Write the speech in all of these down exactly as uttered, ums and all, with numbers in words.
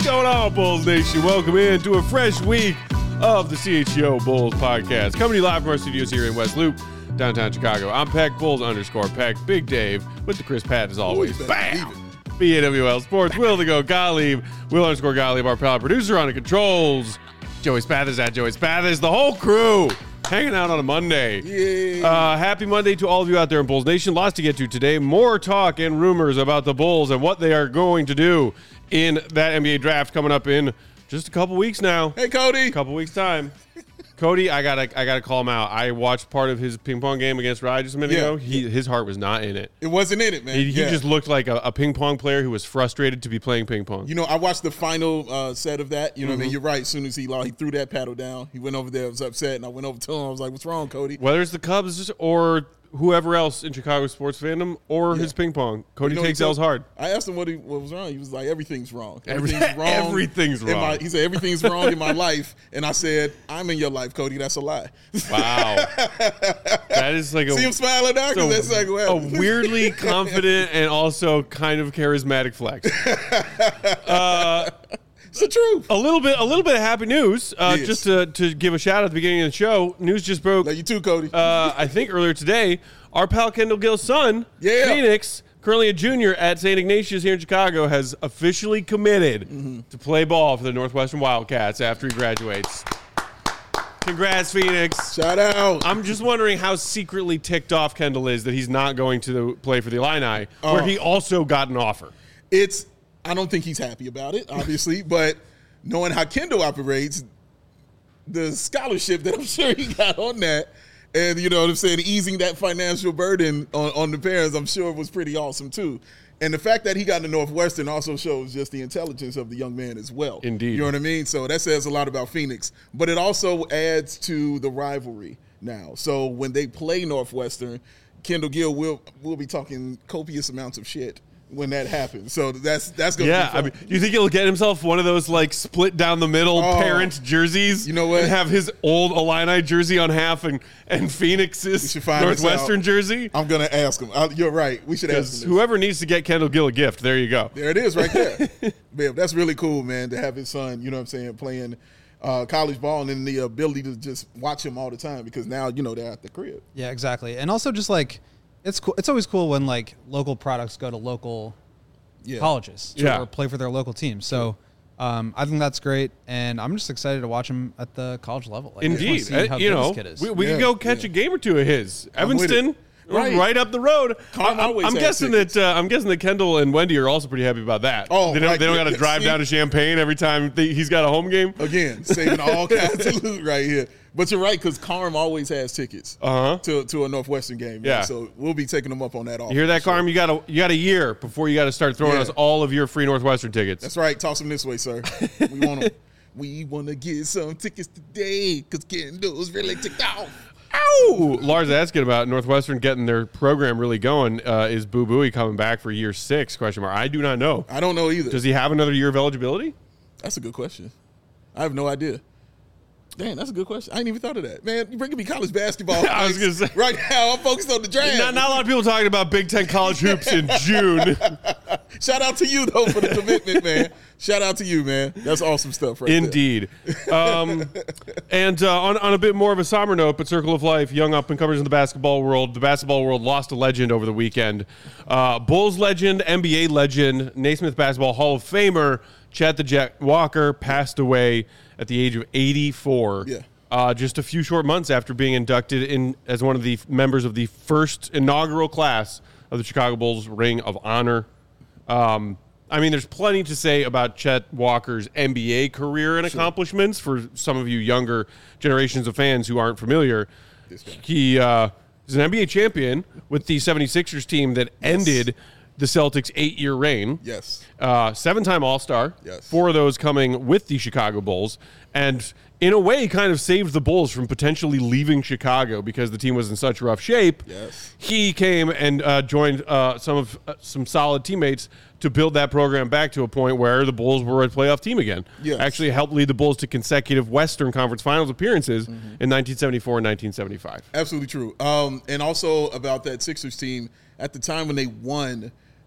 going on, Bulls Nation? Welcome in to a fresh week of the C H G O Bulls podcast. Coming to you live from our studios here in West Loop, downtown Chicago. I'm Peck, Bulls underscore Peck. Big Dave with the Chris Pat as always. Ooh, bam! B A W L Sports. Will to go Gottlieb. Will underscore Gottlieb, our pal producer on the controls. Joey Spathers at Joey Spathers. The whole crew hanging out on a Monday. Yeah. Uh, happy Monday to all of you out there in Bulls Nation. Lots to get to today. More talk and rumors about the Bulls and what they are going to do in that N B A draft coming up in just a couple weeks now. Hey, Cody. A couple weeks time. Cody, I gotta, I gotta call him out. I watched part of his ping pong game against Rye just a minute yeah. ago. He, his heart was not in it. It wasn't in it, man. He, he yeah. just looked like a, a ping pong player who was frustrated to be playing ping pong. You know, I watched the final uh, set of that. You know, mm-hmm. what I mean, you're right. As soon as he he threw that paddle down, he went over there, was upset, and I went over to him. I was like, "What's wrong, Cody?" Whether it's the Cubs or whoever else in Chicago sports fandom or yeah. his ping pong, Cody you know, takes L's hard. I asked him what he what was wrong. He was like, "Everything's wrong. Everything's Everything's wrong. Everything's wrong." My, he said, "Everything's wrong in my life," and I said, "I'm in your life, Cody. That's a lie." Wow, that is like a see him smiling now because that's like well, a weirdly confident and also kind of charismatic flex. Uh, It's the truth. A little bit, a little bit of happy news. Uh, yes. Just to, to give a shout out at the beginning of the show. News just broke. Love you too, Cody. Uh, I think earlier today, our pal Kendall Gill's son, yeah. Phoenix, currently a junior at Saint Ignatius here in Chicago, has officially committed mm-hmm. to play ball for the Northwestern Wildcats after he graduates. Congrats, Phoenix. Shout out. I'm just wondering how secretly ticked off Kendall is that he's not going to play for the Illini, uh, where he also got an offer. It's. I don't think he's happy about it, obviously, but knowing how Kendall operates, the scholarship that I'm sure he got on that, and you know what I'm saying, easing that financial burden on, on the parents, I'm sure was pretty awesome too. And the fact that he got to Northwestern also shows just the intelligence of the young man as well. Indeed. You know what I mean? So that says a lot about Phoenix. But it also adds to the rivalry now. So when they play Northwestern, Kendall Gill will will be talking copious amounts of shit when that happens. So that's that's going to yeah, be fun. I mean, do you think he'll get himself one of those like split down the middle oh, parent jerseys? You know what? And have his old Illini jersey on half and, and Phoenix's Northwestern jersey? I'm going to ask him. I, you're right. We should ask him. Whoever needs to get Kendall Gill a gift, there you go. There it is right there. Man, that's really cool, man, to have his son, you know what I'm saying, playing uh, college ball and then the ability to just watch him all the time because now, you know, they're at the crib. Yeah, exactly. And also just like, It's cool. It's always cool when like local products go to local yeah. colleges to yeah. play for their local teams. So um, I think that's great, and I'm just excited to watch him at the college level. Like, Indeed, uh, you know, we, we yeah, can go catch yeah. a game or two of his. I'm Evanston, right. right up the road. I'm, I'm guessing tickets. that uh, I'm guessing that Kendall and Wendy are also pretty happy about that. Oh, they don't, right. they don't got to drive down to Champaign every time they, he's got a home game. Again, saving all kinds of loot right here. But you're right, because Carm always has tickets uh-huh. to to a Northwestern game. Yeah. Man. So we'll be taking them up on that offer. You hear that, sure. Carm? You got a you got a year before you got to start throwing yeah. us all of your free Northwestern tickets. That's right. Toss them this way, sir. We want them. We want to get some tickets today because Kendall's really ticked off. Ow! Lars asking about Northwestern getting their program really going. Uh, is Boo Booey coming back for year six? Question mark. I do not know. I don't know either. Does he have another year of eligibility? That's a good question. I have no idea. Dang, that's a good question. I ain't even thought of that. Man, you're bringing me college basketball. I was going to say. Right now, I'm focused on the draft. Not, not a lot of people talking about Big Ten college hoops in June. Shout out to you, though, for the commitment, man. Shout out to you, man. That's awesome stuff right Indeed. there. Um, and uh, on, on a bit more of a somber note, but Circle of Life, young up-and-comers in the basketball world. The basketball world lost a legend over the weekend. Uh, Bulls legend, N B A legend, Naismith Basketball Hall of Famer, Chet the Jet Walker passed away at the age of eighty-four. Yeah. Uh, just a few short months after being inducted in as one of the members of the first inaugural class of the Chicago Bulls Ring of Honor. Um, I mean, there's plenty to say about Chet Walker's N B A career and sure. accomplishments for some of you younger generations of fans who aren't familiar. He uh, is an N B A champion with the seventy-sixers team that yes. ended the Celtics' eight-year reign. Yes. Uh, seven-time All-Star. Yes. Four of those coming with the Chicago Bulls. And in a way, kind of saved the Bulls from potentially leaving Chicago because the team was in such rough shape. Yes. He came and uh, joined uh, some of uh, some solid teammates to build that program back to a point where the Bulls were a playoff team again. Yes. Actually helped lead the Bulls to consecutive Western Conference Finals appearances mm-hmm. in nineteen seventy-four and nineteen seventy-five. Absolutely true. Um, and also about that Sixers team, at the time when they won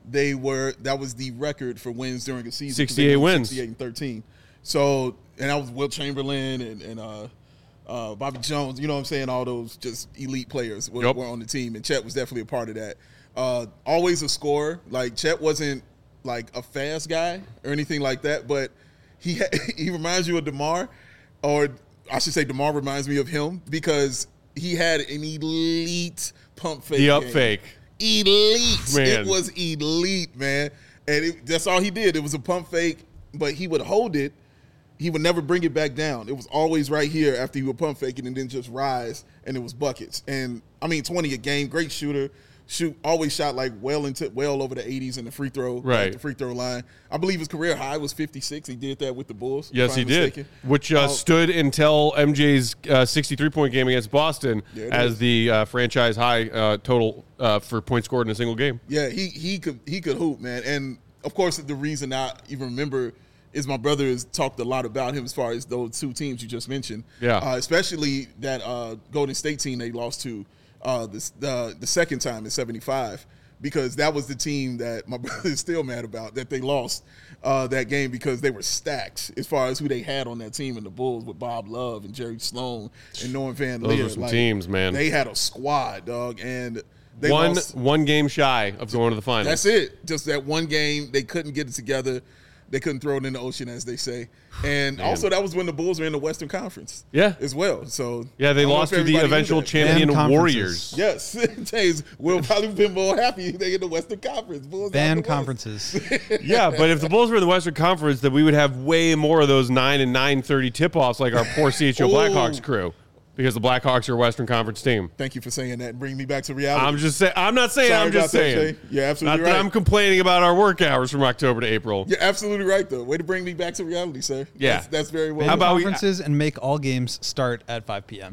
they were that was the record for wins during a season. sixty-eight wins. sixty-eight and thirteen. So, and that was Wilt Chamberlain and, and uh, uh, Bobby Jones. You know what I'm saying? All those just elite players were, yep. were on the team, and Chet was definitely a part of that. Uh, always a scorer. Like, Chet wasn't like a fast guy or anything like that, but he ha- he reminds you of DeMar, or I should say DeMar reminds me of him because he had an elite pump fake. The up game. fake. Elite. Man. It was elite, man. And it, that's all he did. It was a pump fake, but he would hold it. He would never bring it back down. It was always right here after he would pump fake it and then just rise, and it was buckets. And, I mean, twenty a game, great shooter. Shoot, always shot like well into well over the eighties in the free throw, right? Like the free throw line. I believe his career high was fifty-six. He did that with the Bulls. Yes, he did. Mistaken. Which uh, uh, stood until M J's uh, sixty-three point game against Boston as is. the uh, franchise high uh, total uh, for points scored in a single game. Yeah, he he could he could hoop, man. And of course, the reason I even remember is my brother has talked a lot about him as far as those two teams you just mentioned. Yeah, uh, especially that uh, Golden State team they lost to uh, the the the second time in seventy-five. Because that was the team that my brother is still mad about, that they lost uh, that game because they were stacked as far as who they had on that team in the Bulls with Bob Love and Jerry Sloan and Norman Van Leer. Those were some like, teams, man. They had a squad, dog, and they one lost. one game shy of going to the finals. That's it. Just that one game, they couldn't get it together. They couldn't throw it in the ocean, as they say. And Man. also, that was when the Bulls were in the Western Conference. Yeah. As well. So yeah, they lost to the eventual champion Warriors. Yes. James will probably been more happy they in the Western Conference. Bulls Ban conferences. Yeah, but if the Bulls were in the Western Conference, then we would have way more of those nine and nine thirty tip-offs like our poor C H O Blackhawks crew. Because the Blackhawks are a Western Conference team. Thank you for saying that and bringing me back to reality. I'm just saying. I'm not saying. Sorry I'm just about that, saying. Jay. You're absolutely not right. That I'm complaining about our work hours from October to April. You're absolutely right, though. Way to bring me back to reality, sir. Yeah, that's, that's very well. Ban How about we- conferences and make all games start at five p.m.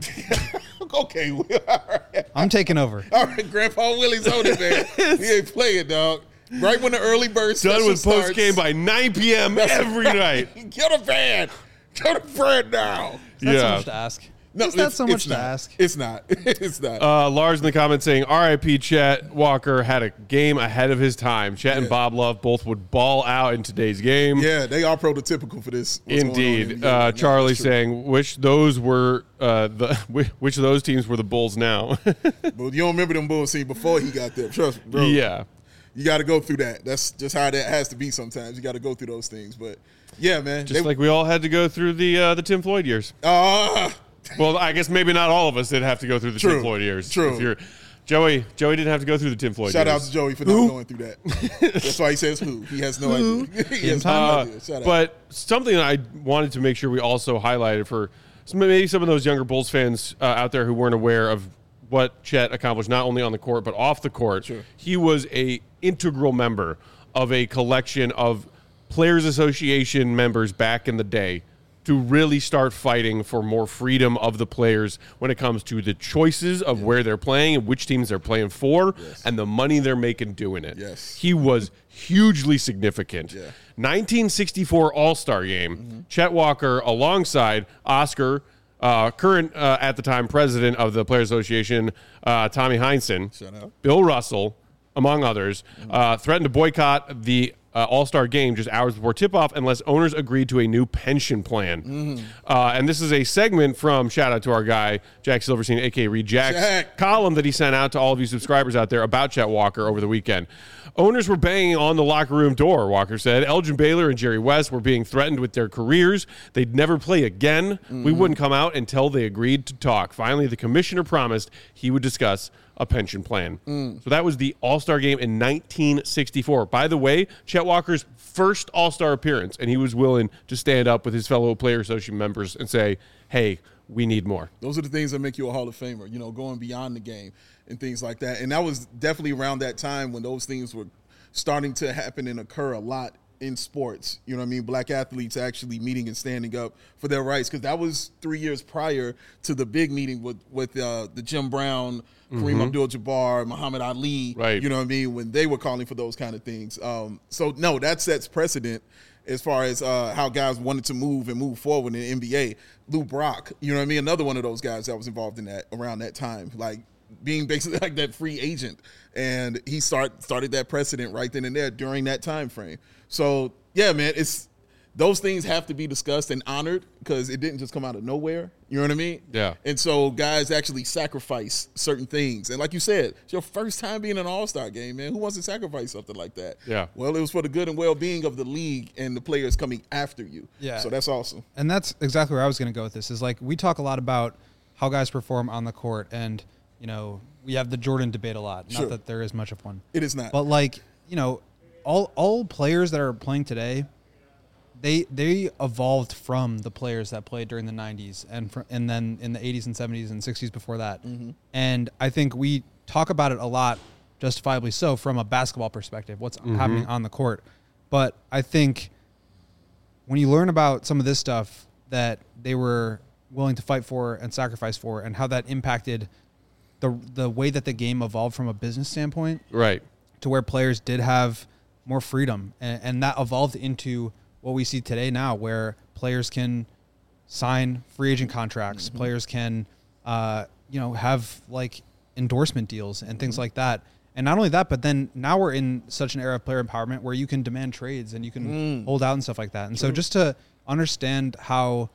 Okay, all right. I'm taking over. All right, Grandpa Willie's on it, man. He ain't playing, dog. Right when the early bird Done with starts. post game by nine p.m. every night. Get a van. Get a van now. That's so Yeah. much to ask. No, Is that it's- so much it's to not. ask? It's not. It's not. Uh, Lars in the comments saying, R I P Chet Walker had a game ahead of his time. Chet and Yeah. Bob Love both would ball out in today's game. yeah, they are prototypical for this. what's going on in Indeed. the N B A Uh, right now. Charlie That's true. saying, which those were uh, the which of those teams were the Bulls now? But you don't remember them Bulls team before he got there. Trust me, bro. Yeah. You got to go through that. That's just how that has to be sometimes. You got to go through those things. But, yeah, man. Just they, like we all had to go through the uh, the Tim Floyd years. Ah, Well, I guess maybe not all of us did have to go through the True. Tim Floyd years. True. If you're Joey, Joey didn't have to go through the Tim Floyd shout years. out to Joey for not going through that. That's why he says who. He has no idea. he has no Uh, idea. Shout out. but something that I wanted to make sure we also highlighted for some, maybe some of those younger Bulls fans uh, out there who weren't aware of what Chet accomplished not only on the court but off the court. Sure. He was a integral member of a collection of Players Association members back in the day to really start fighting for more freedom of the players when it comes to the choices of yeah. where they're playing and which teams they're playing for yes. and the money they're making doing it. Yes. He was hugely significant. Yeah. nineteen sixty-four All-Star Game, mm-hmm. Chet Walker alongside Oscar, uh, current uh, at the time president of the Players Association, uh, Tommy Heinsohn, Shout out. Bill Russell, among others, mm-hmm. uh, threatened to boycott the Uh, All-Star game just hours before tip-off unless owners agreed to a new pension plan. Mm-hmm. Uh, and this is a segment from, shout out to our guy, Jack Silverstein, a k a. Reed Jack's Jack. column that he sent out to all of you subscribers out there about Chet Walker over the weekend. Owners were banging on the locker room door, Walker said. Elgin Baylor and Jerry West were being threatened with their careers. They'd never play again. Mm-hmm. We wouldn't come out until they agreed to talk. Finally, the commissioner promised he would discuss a pension plan. Mm. So that was the All-Star game in nineteen sixty-four. By the way, Chet Walker's first All-Star appearance, and he was willing to stand up with his fellow Player Association members and say, hey, we need more. Those are the things that make you a Hall of Famer, you know, going beyond the game and things like that. And that was definitely around that time when those things were starting to happen and occur a lot in sports. You know what I mean? Black athletes actually meeting and standing up for their rights, because that was three years prior to the big meeting with, with uh, the Jim Brown, Kareem mm-hmm. Abdul-Jabbar, Muhammad Ali, right. you know what I mean, when they were calling for those kind of things. Um, so, no, that sets precedent as far as uh, how guys wanted to move and move forward in the N B A. Lou Brock, you know what I mean, another one of those guys that was involved in that around that time. Like, being basically like that free agent. And he start started that precedent right then and there during that time frame. So yeah, man, it's those things have to be discussed and honored because it didn't just come out of nowhere. You know what I mean? Yeah. And so guys actually sacrifice certain things. And like you said, it's your first time being in an all-star game, man. Who wants to sacrifice something like that? Yeah. Well, it was for the good and well-being of the league and the players coming after you. Yeah. So that's awesome. And that's exactly where I was going to go with this is like we talk a lot about how guys perform on the court and, you know, we have the Jordan debate a lot. Not Sure. that there is much of one. It is not. But like, you know, all all players that are playing today, they they evolved from the players that played during the nineties and fr- and then in the eighties and seventies and sixties before that. Mm-hmm. And I think we talk about it a lot, justifiably so, from a basketball perspective, what's mm-hmm. happening on the court. But I think when you learn about some of this stuff that they were willing to fight for and sacrifice for and how that impacted the the way that the game evolved from a business standpoint, Right. to where players did have more freedom, and, and that evolved into what we see today now, where players can sign free agent contracts, mm-hmm. players can, uh, you know, have like endorsement deals and things mm-hmm. like that. And not only that, but then now we're in such an era of player empowerment where you can demand trades and you can mm. hold out and stuff like that. And True. So just to understand how,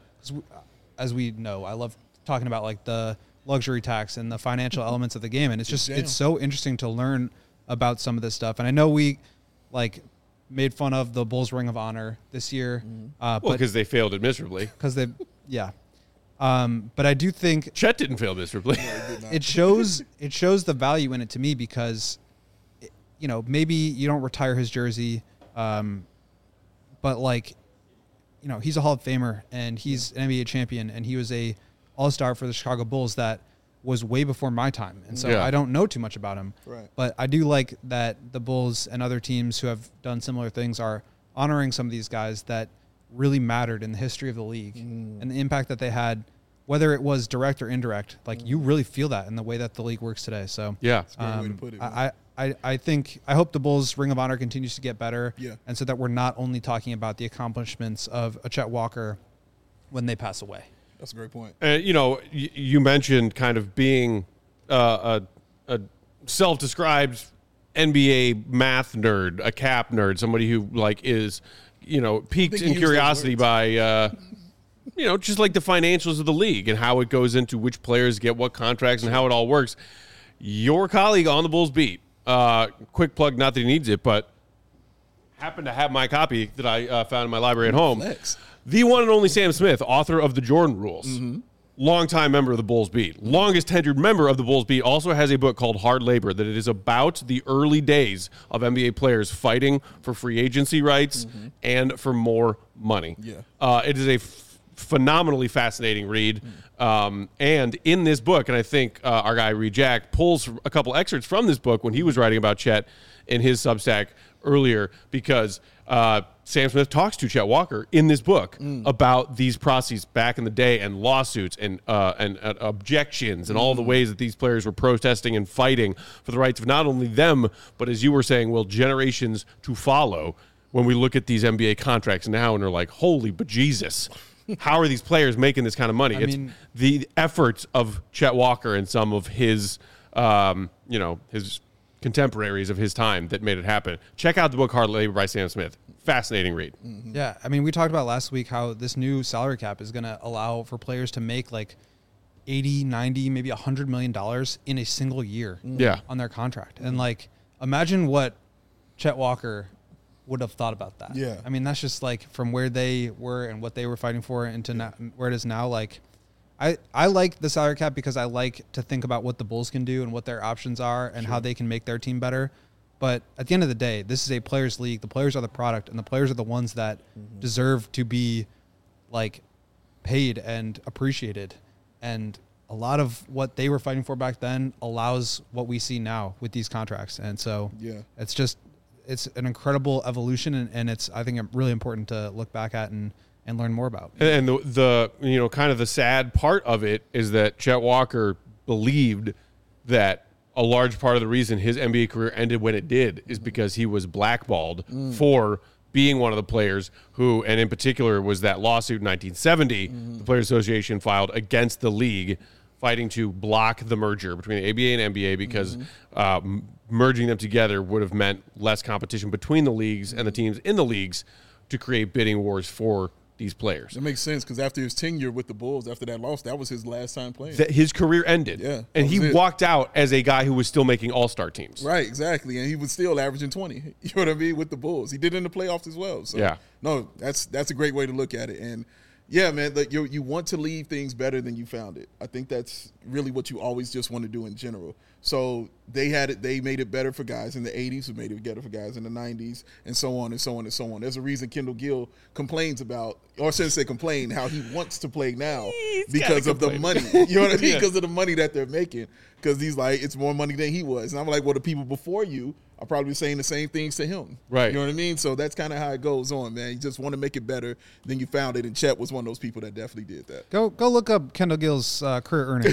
as we know, I love talking about like the luxury tax and the financial elements of the game. And it's just, Damn. it's so interesting to learn about some of this stuff. And I know we like made fun of the Bulls Ring of Honor this year. Mm. Uh, well, because they failed it miserably. Because they, yeah. Um, but I do think Chet didn't fail miserably. No, it shows it shows the value in it to me because, it, you know, maybe you don't retire his jersey, um, but like, you know, he's a Hall of Famer and he's an N B A champion and he was a All-Star for the Chicago Bulls that was way before my time. And so yeah. I don't know too much about him. Right. But I do like that the Bulls and other teams who have done similar things are honoring some of these guys that really mattered in the history of the league mm. and the impact that they had, whether it was direct or indirect. Like mm. you really feel that in the way that the league works today. So yeah, that's a great um, way to put it. I, I, I think I hope the Bulls Ring of Honor continues to get better. Yeah. And so that we're not only talking about the accomplishments of a Chet Walker when they pass away. That's a great point. Uh, you know, y- you mentioned kind of being uh, a, a self-described N B A math nerd, a cap nerd, somebody who like is, you know, piqued in curiosity by, uh, you know, just like the financials of the league and how it goes into which players get what contracts and how it all works. Your colleague on the Bulls beat, uh, quick plug, not that he needs it, but happened to have my copy that I uh, found in my library at home. Flex. The one and only Sam Smith, author of the Jordan Rules, mm-hmm. longtime member of the Bulls Beat, longest tenured member of the Bulls Beat, also has a book called Hard Labor that it is about the early days of N B A players fighting for free agency rights mm-hmm. and for more money. Yeah, uh, it is a f- phenomenally fascinating read. Mm. Um, and in this book, and I think uh, our guy Reed Jack pulls a couple excerpts from this book when he was writing about Chet in his Substack earlier because uh, Sam Smith talks to Chet Walker in this book mm. about these processes back in the day and lawsuits and uh, and uh, objections and mm. all the ways that these players were protesting and fighting for the rights of not only them, but as you were saying, well, generations to follow when we look at these N B A contracts now and are like, holy bejesus, how are these players making this kind of money? I it's mean, the efforts of Chet Walker and some of his, um, you know, his contemporaries of his time that made it happen. Check out the book Hard Labor by Sam Smith. Fascinating read. Mm-hmm. Yeah, I mean, we talked about last week how this new salary cap is going to allow for players to make like eighty, ninety, maybe one hundred million dollars in a single year yeah. on their contract. And like, imagine what Chet Walker would have thought about that. Yeah. I mean, that's just like from where they were and what they were fighting for into now, where it is now. Like, I, I like the salary cap because I like to think about what the Bulls can do and what their options are and sure. how they can make their team better. But at the end of the day, this is a players' league. The players are the product, and the players are the ones that mm-hmm. deserve to be like paid and appreciated. And a lot of what they were fighting for back then allows what we see now with these contracts. And so yeah. it's just it's an incredible evolution, and, and it's I think really important to look back at and and learn more about. And the, the, you know, kind of the sad part of it is that Chet Walker believed that a large part of the reason his N B A career ended when it did is because he was blackballed mm. for being one of the players who, and in particular was that lawsuit in nineteen seventy, mm. the Players Association filed against the league fighting to block the merger between the A B A and N B A because mm-hmm. uh, m- merging them together would have meant less competition between the leagues and the teams in the leagues to create bidding wars for these players. That makes sense because after his tenure with the Bulls, after that loss, that was his last time playing. That his career ended. Yeah, and he it. walked out as a guy who was still making all-star teams. Right, exactly. And he was still averaging twenty. You know what I mean? With the Bulls. He did it in the playoffs as well. So, yeah. No, that's that's a great way to look at it. And, yeah, man, like you you want to leave things better than you found it. I think that's really what you always just want to do in general. So they had it. They made it better for guys in the eighties, who made it better for guys in the nineties, and so on and so on and so on. There's a reason Kendall Gill complains about, or shouldn't say complain, how he wants to play now He's because of complain. the money. You know what I mean? Yeah. Because of the money that they're making. Because he's like, it's more money than he was. And I'm like, well, the people before you are probably saying the same things to him. Right. You know what I mean? So that's kind of how it goes on, man. You just want to make it better than you found it. And Chet was one of those people that definitely did that. Go go look up Kendall Gill's uh, career earnings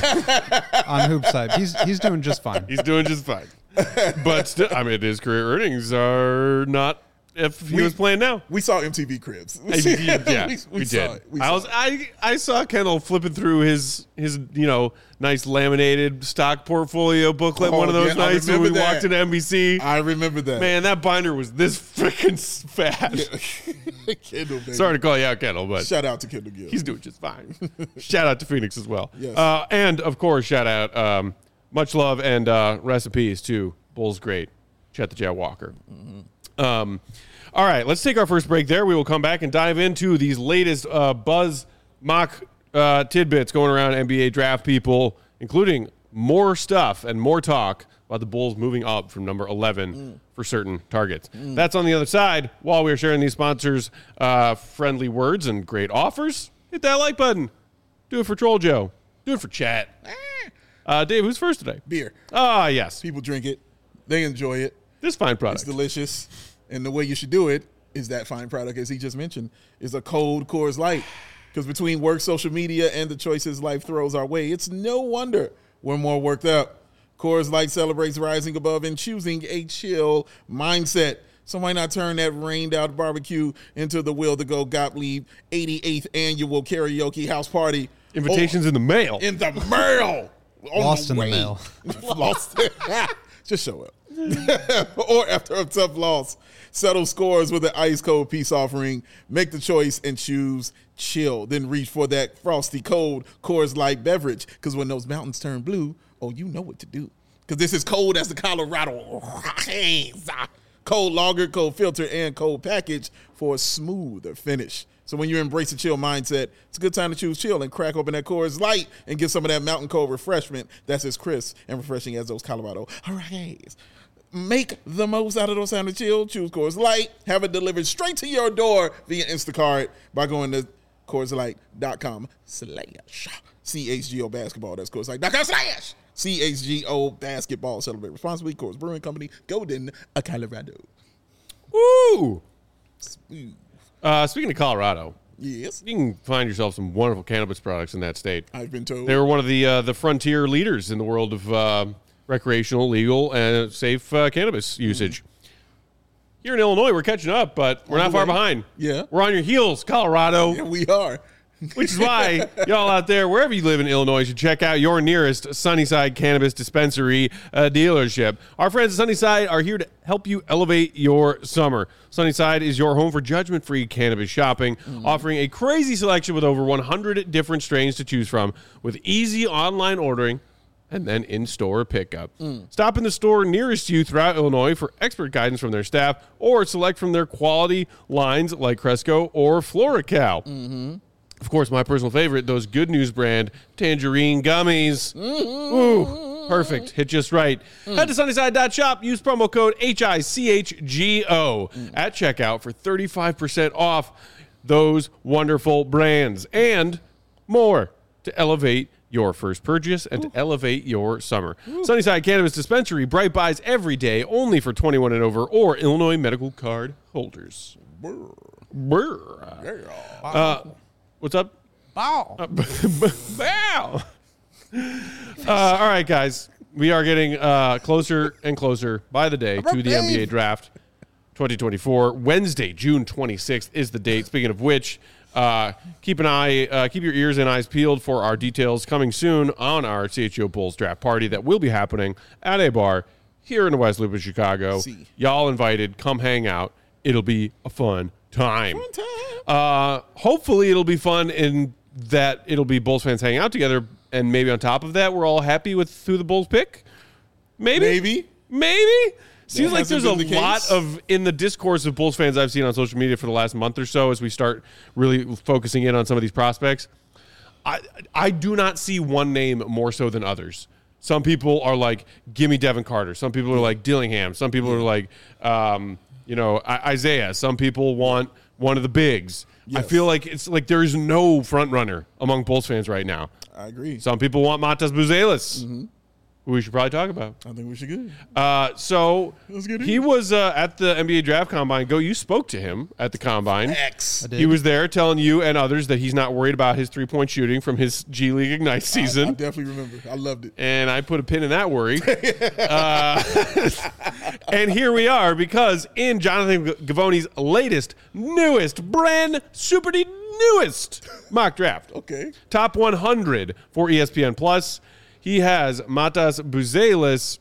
on Hoops Hype. He's he's doing just fine. He's doing just fine. But still, I mean, his career earnings are not if he We- was playing now. We saw M T V Cribs. yeah, we, we, we saw did. it. We I saw was it. I I saw Kendall flipping through his his you know nice laminated stock portfolio booklet Oh, one of those yeah, I nights when we remember walked that. into N B C. I remember that. Man, that binder was this freaking fat. Kendall, baby. Sorry to call you out, Kendall, but Shout out to Kendall Gill. he's doing just fine. Shout out to Phoenix as well. Yes. Uh, and, of course, shout out, um, much love and uh, recipes to Bulls great, Chet the Jet Walker. Mm-hmm. Um, all right, let's take our first break there. We will come back and dive into these latest uh, buzz mock uh, tidbits going around N B A draft people, including more stuff and more talk about the Bulls moving up from number eleven mm. for certain targets. Mm. That's on the other side. While we are sharing these sponsors' uh, friendly words and great offers, hit that like button. Do it for Troll Joe. Do it for Chat. Uh, Dave, who's first today? Beer. Ah, yes. People drink it. They enjoy it. This fine product. It's delicious. And the way you should do it is that fine product, as he just mentioned, is a cold Coors Light. Because between work, social media, and the choices life throws our way, it's no wonder we're more worked up. Coors Light celebrates rising above and choosing a chill mindset. So why not turn that rained-out barbecue into the Will to Go Gottlieb eighty-eighth annual karaoke house party? Invitations Oh, in the mail. in the mail. On Lost the in the way. mail. Lost. Just show up. Or after a tough loss, settle scores with an ice cold peace offering. Make the choice and choose chill. Then reach for that frosty cold Coors Light beverage. Because when those mountains turn blue, oh, you know what to do. Because this is cold as the Colorado. Cold lager, cold filter, and cold package for a smoother finish. So when you embrace a chill mindset, it's a good time to choose chill and crack open that Coors Light and get some of that mountain cold refreshment that's as crisp and refreshing as those Colorado Hurricanes. Make the most out of those sound of chill. Choose Coors Light. Have it delivered straight to your door via Instacart by going to Coors Light dot com slash C H G O basketball. That's Coors Light dot com slash C H G O basketball. Celebrate responsibly. Coors Brewing Company, Golden, Colorado. Woo! Smooth. Uh, speaking of Colorado, Yes, you can find yourself some wonderful cannabis products in that state. I've been told. They were one of the uh, the frontier leaders in the world of uh, recreational, legal, and safe uh, cannabis usage. Mm-hmm. Here in Illinois, we're catching up, but we're On not the far way. behind. Yeah. We're on your heels, Colorado. Yeah, we are. Which is why y'all out there, wherever you live in Illinois, should check out your nearest Sunnyside Cannabis Dispensary uh, dealership. Our friends at Sunnyside are here to help you elevate your summer. Sunnyside is your home for judgment-free cannabis shopping, mm. offering a crazy selection with over one hundred different strains to choose from, with easy online ordering and then in-store pickup. Mm. Stop in the store nearest you throughout Illinois for expert guidance from their staff, or select from their quality lines like Cresco or FloraCal. Mm-hmm. Of course, my personal favorite, those Good News brand tangerine gummies. Mm-hmm. Ooh, perfect. Hit just right. Mm. Head to sunnyside dot shop. Use promo code H I C H G O mm. at checkout for thirty-five percent off those wonderful brands and more to elevate your first purchase and Ooh. to elevate your summer. Ooh. Sunnyside Cannabis Dispensary, bright buys every day, only for twenty-one and over or Illinois medical card holders. Brr. Brr. Yeah. Uh, What's up? Bow. Uh, bow. Uh, all right, guys. We are getting uh, closer and closer by the day to the N B A draft twenty twenty-four. Wednesday, June twenty-sixth is the date. Speaking of which, Uh, keep an eye, uh, keep your ears and eyes peeled for our details coming soon on our C H G O Bulls draft party that will be happening at a bar here in the West Loop of Chicago. See. Y'all invited. Come hang out. It'll be a fun time. Fun time. Uh, hopefully it'll be fun in that it'll be Bulls fans hanging out together, and maybe on top of that, we're all happy with who the Bulls pick. Maybe. Maybe. Maybe. Seems like hasn't there's a been the lot case. of, in the discourse of Bulls fans I've seen on social media for the last month or so as we start really focusing in on some of these prospects, I I do not see one name more so than others. Some people are like, give me Devin Carter. Some people are like Dillingham. Some people are like, um, you know, I- Isaiah. Some people want one of the bigs. I Yes. feel like it's like there is no front runner among Bulls fans right now. I agree. Some people want Matas Buzelis, Mm-hmm. who we should probably talk about. I think we should go. Uh, so Let's get it. he was uh, at the N B A Draft Combine. Go, you spoke to him at the Combine. X. did. He was there telling you and others that he's not worried about his three-point shooting from his G League Ignite I, season. I definitely remember. I loved it. and I put a pin in that worry. uh, and here we are because in Jonathan Givony's latest, newest, brand super newest mock draft, Okay. top one hundred for E S P N Plus, he has Matas Buzelis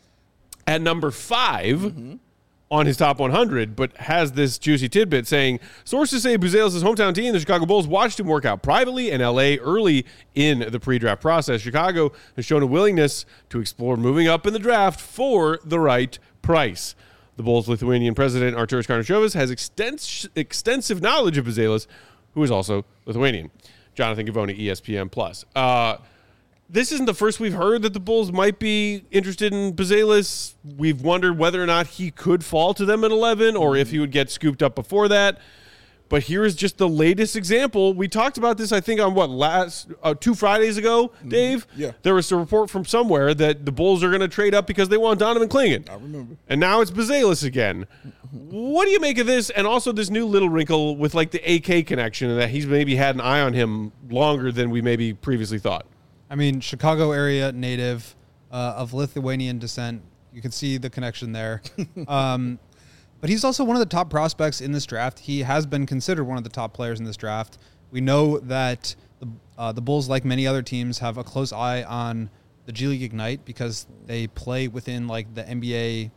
at number five on his top one hundred, but has this juicy tidbit saying, sources say Buzelis' hometown team, the Chicago Bulls, watched him work out privately in L A early in the pre-draft process. Chicago has shown a willingness to explore moving up in the draft for the right price. The Bulls' Lithuanian president, Arturas Karnišovas, has extens- extensive knowledge of Buzelis, who is also Lithuanian. Jonathan Givony, E S P N Plus. Uh, This isn't the first we've heard that the Bulls might be interested in Buzelis. We've wondered whether or not he could fall to them at eleven or if he would get scooped up before that. But here is just the latest example. We talked about this, I think, on what, last uh, two Fridays ago, Dave? Yeah. There was a report from somewhere that the Bulls are going to trade up because they want Donovan Clingan. I remember. And now it's Buzelis again. What do you make of this? And also this new little wrinkle with like the A K connection and that he's maybe had an eye on him longer than we maybe previously thought. I mean, Chicago area native uh, of Lithuanian descent. You can see the connection there. um, but he's also one of the top prospects in this draft. He has been considered one of the top players in this draft. We know that the uh, the Bulls, like many other teams, have a close eye on the G League Ignite because they play within like the N B A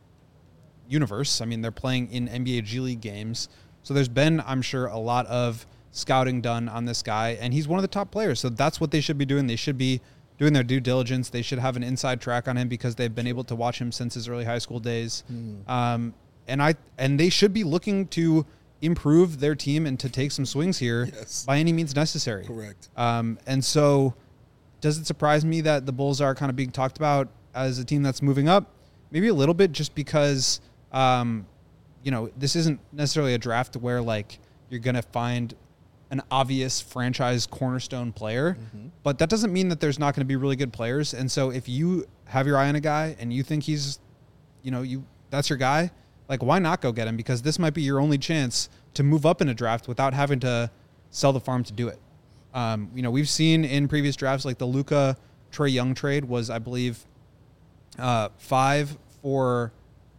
universe. I mean, they're playing in N B A G League games. So there's been, I'm sure, a lot of scouting done on this guy, and he's one of the top players. So that's what they should be doing. They should be doing their due diligence. They should have an inside track on him because they've been able to watch him since his early high school days. Mm. Um, and I and they should be looking to improve their team and to take some swings here Yes. by any means necessary. Correct. Um, and so does it surprise me that the Bulls are kind of being talked about as a team that's moving up? Maybe a little bit, just because, um, you know, this isn't necessarily a draft where like you're going to find an obvious franchise cornerstone player, Mm-hmm. but that doesn't mean that there's not going to be really good players. And so if you have your eye on a guy and you think he's, you know, you that's your guy, like why not go get him? Because this might be your only chance to move up in a draft without having to sell the farm to do it. Um, you know, we've seen in previous drafts, like the Luka Trae Young trade was, I believe, uh, five for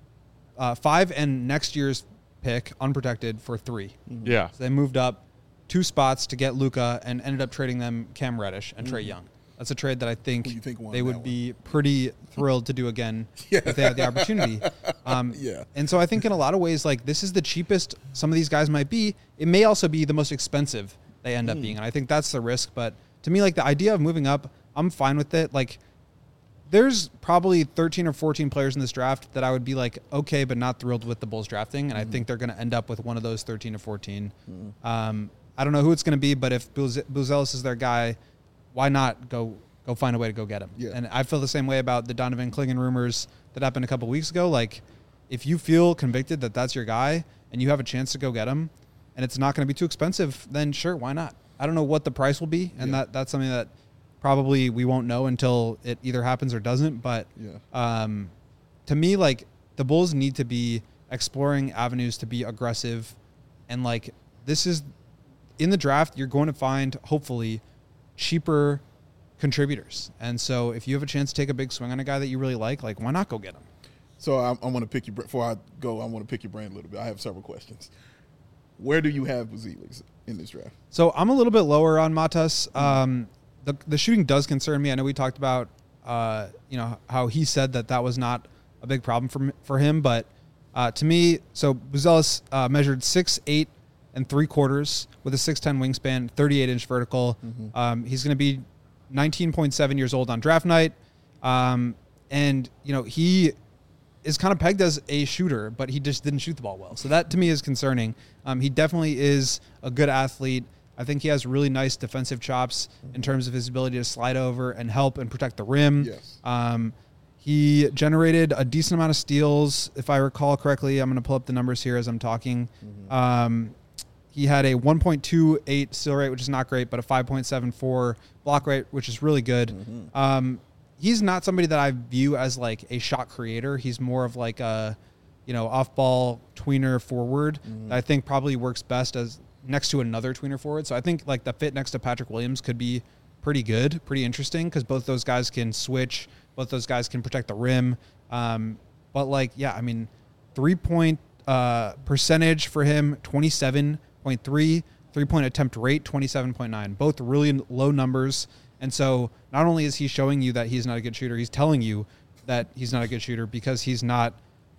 uh, five and next year's pick unprotected for three. Yeah. So they moved up two spots to get Luka and ended up trading them Cam Reddish and Trae Young. That's a trade that I think, Who you think won they that would one? be pretty thrilled to do again Yeah. if they had the opportunity. Um, Yeah. And so I think in a lot of ways, like this is the cheapest some of these guys might be. It may also be the most expensive they end up being. And I think that's the risk. But to me, like the idea of moving up, I'm fine with it. Like there's probably thirteen or fourteen players in this draft that I would be like, okay, but not thrilled with the Bulls drafting. And I think they're going to end up with one of those thirteen or fourteen. Um, I don't know who it's going to be, but if Buz- Buzelis is their guy, why not go go find a way to go get him? Yeah. And I feel the same way about the Donovan Clingan rumors that happened a couple weeks ago. Like, if you feel convicted that that's your guy and you have a chance to go get him, and it's not going to be too expensive, then sure, why not? I don't know what the price will be, and Yeah. that that's something that probably we won't know until it either happens or doesn't. But Yeah. um, to me, like the Bulls need to be exploring avenues to be aggressive, and like this is in the draft, you're going to find hopefully cheaper contributors. And so if you have a chance to take a big swing on a guy that you really like, like why not go get him? So I, I want to pick your before I go. I want to pick your brain a little bit. I have several questions. Where do you have Buzelis in this draft? So I'm a little bit lower on Matas. Um, the the shooting does concern me. I know we talked about uh, you know how he said that that was not a big problem for for him, but uh, to me, so Buzelis uh, measured six eight and three quarters with a six ten wingspan, thirty-eight inch vertical. Mm-hmm. Um, he's going to be nineteen point seven years old on draft night, um, and you know he is kind of pegged as a shooter, but he just didn't shoot the ball well. So that to me is concerning. Um, he definitely is a good athlete. I think he has really nice defensive chops in terms of his ability to slide over and help and protect the rim. Yes. Um, he generated a decent amount of steals, if I recall correctly. I'm going to pull up the numbers here as I'm talking. Mm-hmm. Um, he had a one point two eight steal rate, which is not great, but a five point seven four block rate, which is really good. Mm-hmm. Um, he's not somebody that I view as like a shot creator. He's more of like a, you know, off-ball tweener forward mm-hmm. that I think probably works best as next to another tweener forward. So I think like the fit next to Patrick Williams could be pretty good, pretty interesting, because both those guys can switch. Both those guys can protect the rim. Um, but like, yeah, I mean, three-point uh, percentage for him, twenty-seven point three, three-point attempt rate, twenty-seven point nine. Both really low numbers. And so not only is he showing you that he's not a good shooter, he's telling you that he's not a good shooter because he's not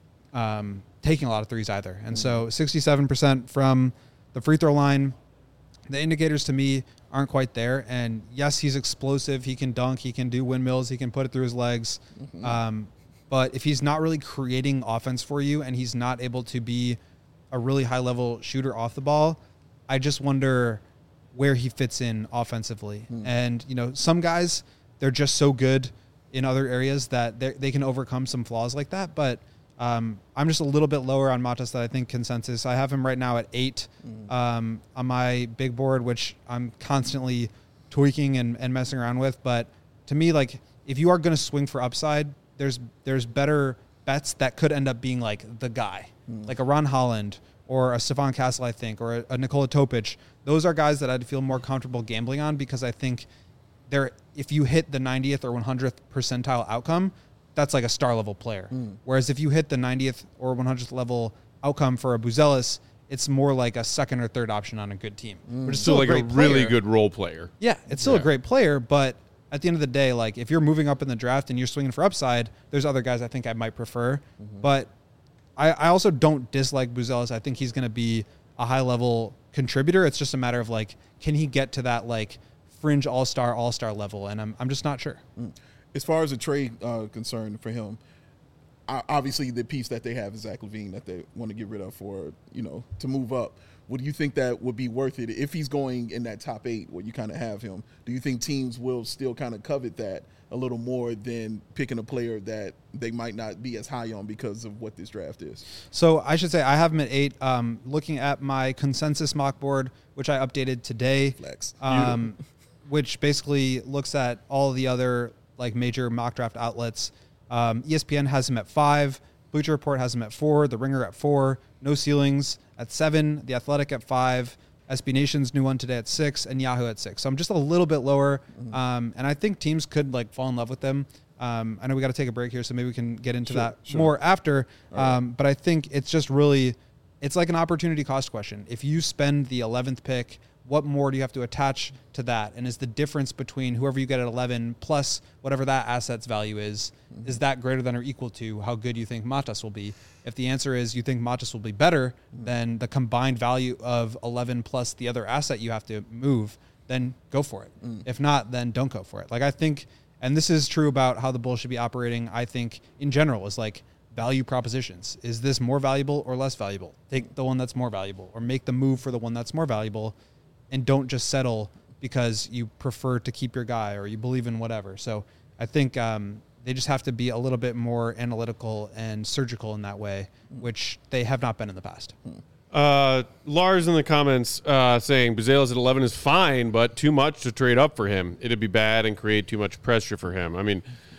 um, taking a lot of threes either. And so sixty-seven percent from the free throw line, the indicators to me aren't quite there. And yes, he's explosive. He can dunk. He can do windmills. He can put it through his legs. Mm-hmm. Um, but if he's not really creating offense for you and he's not able to be a really high-level shooter off the ball, I just wonder where he fits in offensively. Mm. And, you know, some guys, they're just so good in other areas that they can overcome some flaws like that. But um, I'm just a little bit lower on Matas than I think consensus. I have him right now at eight mm. um, on my big board, which I'm constantly tweaking and, and messing around with. But to me, like, if you are going to swing for upside, there's there's better bets that could end up being like the guy, mm. like a Ron Holland or a Stephon Castle, I think, or a, a Nikola Topic. Those are guys that I'd feel more comfortable gambling on because I think they're, if you hit the ninetieth or one hundredth percentile outcome, that's like a star level player. Mm. Whereas if you hit the ninetieth or one hundredth level outcome for a Buzelis, it's more like a second or third option on a good team. Mm. Which is still, still like a, a really good role player. Yeah, it's still yeah. a great player, but at the end of the day, like if you're moving up in the draft and you're swinging for upside, there's other guys I think I might prefer. Mm-hmm. But I, I also don't dislike Buzelis. I think he's going to be a high level contributor. It's just a matter of like, can he get to that like fringe all-star, all-star level? And I'm I'm just not sure. Mm. As far as a trade uh, concern for him, obviously the piece that they have is Zach LaVine that they want to get rid of for, you know, to move up. Would you think that would be worth it if he's going in that top eight where you kind of have him? Do you think teams will still kind of covet that a little more than picking a player that they might not be as high on because of what this draft is? So I should say I have him at eight. Um, looking at my consensus mock board, which I updated today, Flex. Um, which basically looks at all the other like major mock draft outlets. Um, E S P N has him at five. Bleacher Report has him at four. The Ringer at four. No Ceilings at seven. The Athletic at five. S B Nation's new one today at six, and Yahoo at six. So I'm just a little bit lower, mm-hmm. um, and I think teams could like fall in love with them. Um, I know we got to take a break here, so maybe we can get into sure, that sure. more after. Right. Um, but I think it's just really, it's like an opportunity cost question. If you spend the eleventh pick, what more do you have to attach to that? And is the difference between whoever you get at eleven plus whatever that asset's value is, mm-hmm. is that greater than or equal to how good you think Matas will be? If the answer is you think Matas will be better mm-hmm. than the combined value of eleven plus the other asset you have to move, then go for it. Mm. If not, then don't go for it. Like I think, and this is true about how the Bulls should be operating, I think in general is like value propositions. Is this more valuable or less valuable? Take the one that's more valuable or make the move for the one that's more valuable. And don't just settle because you prefer to keep your guy or you believe in whatever. So I think um, they just have to be a little bit more analytical and surgical in that way, which they have not been in the past. Uh, Lars in the comments uh, saying Buzelis at eleven is fine, but too much to trade up for him. It'd be bad and create too much pressure for him. I mean,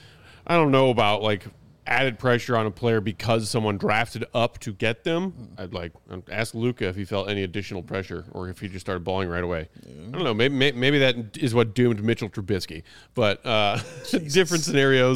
I don't know about like added pressure on a player because someone drafted up to get them. I'd like ask Luka if he felt any additional pressure or if he just started balling right away. Yeah. I don't know. Maybe maybe that is what doomed Mitchell Trubisky. But uh, different scenarios.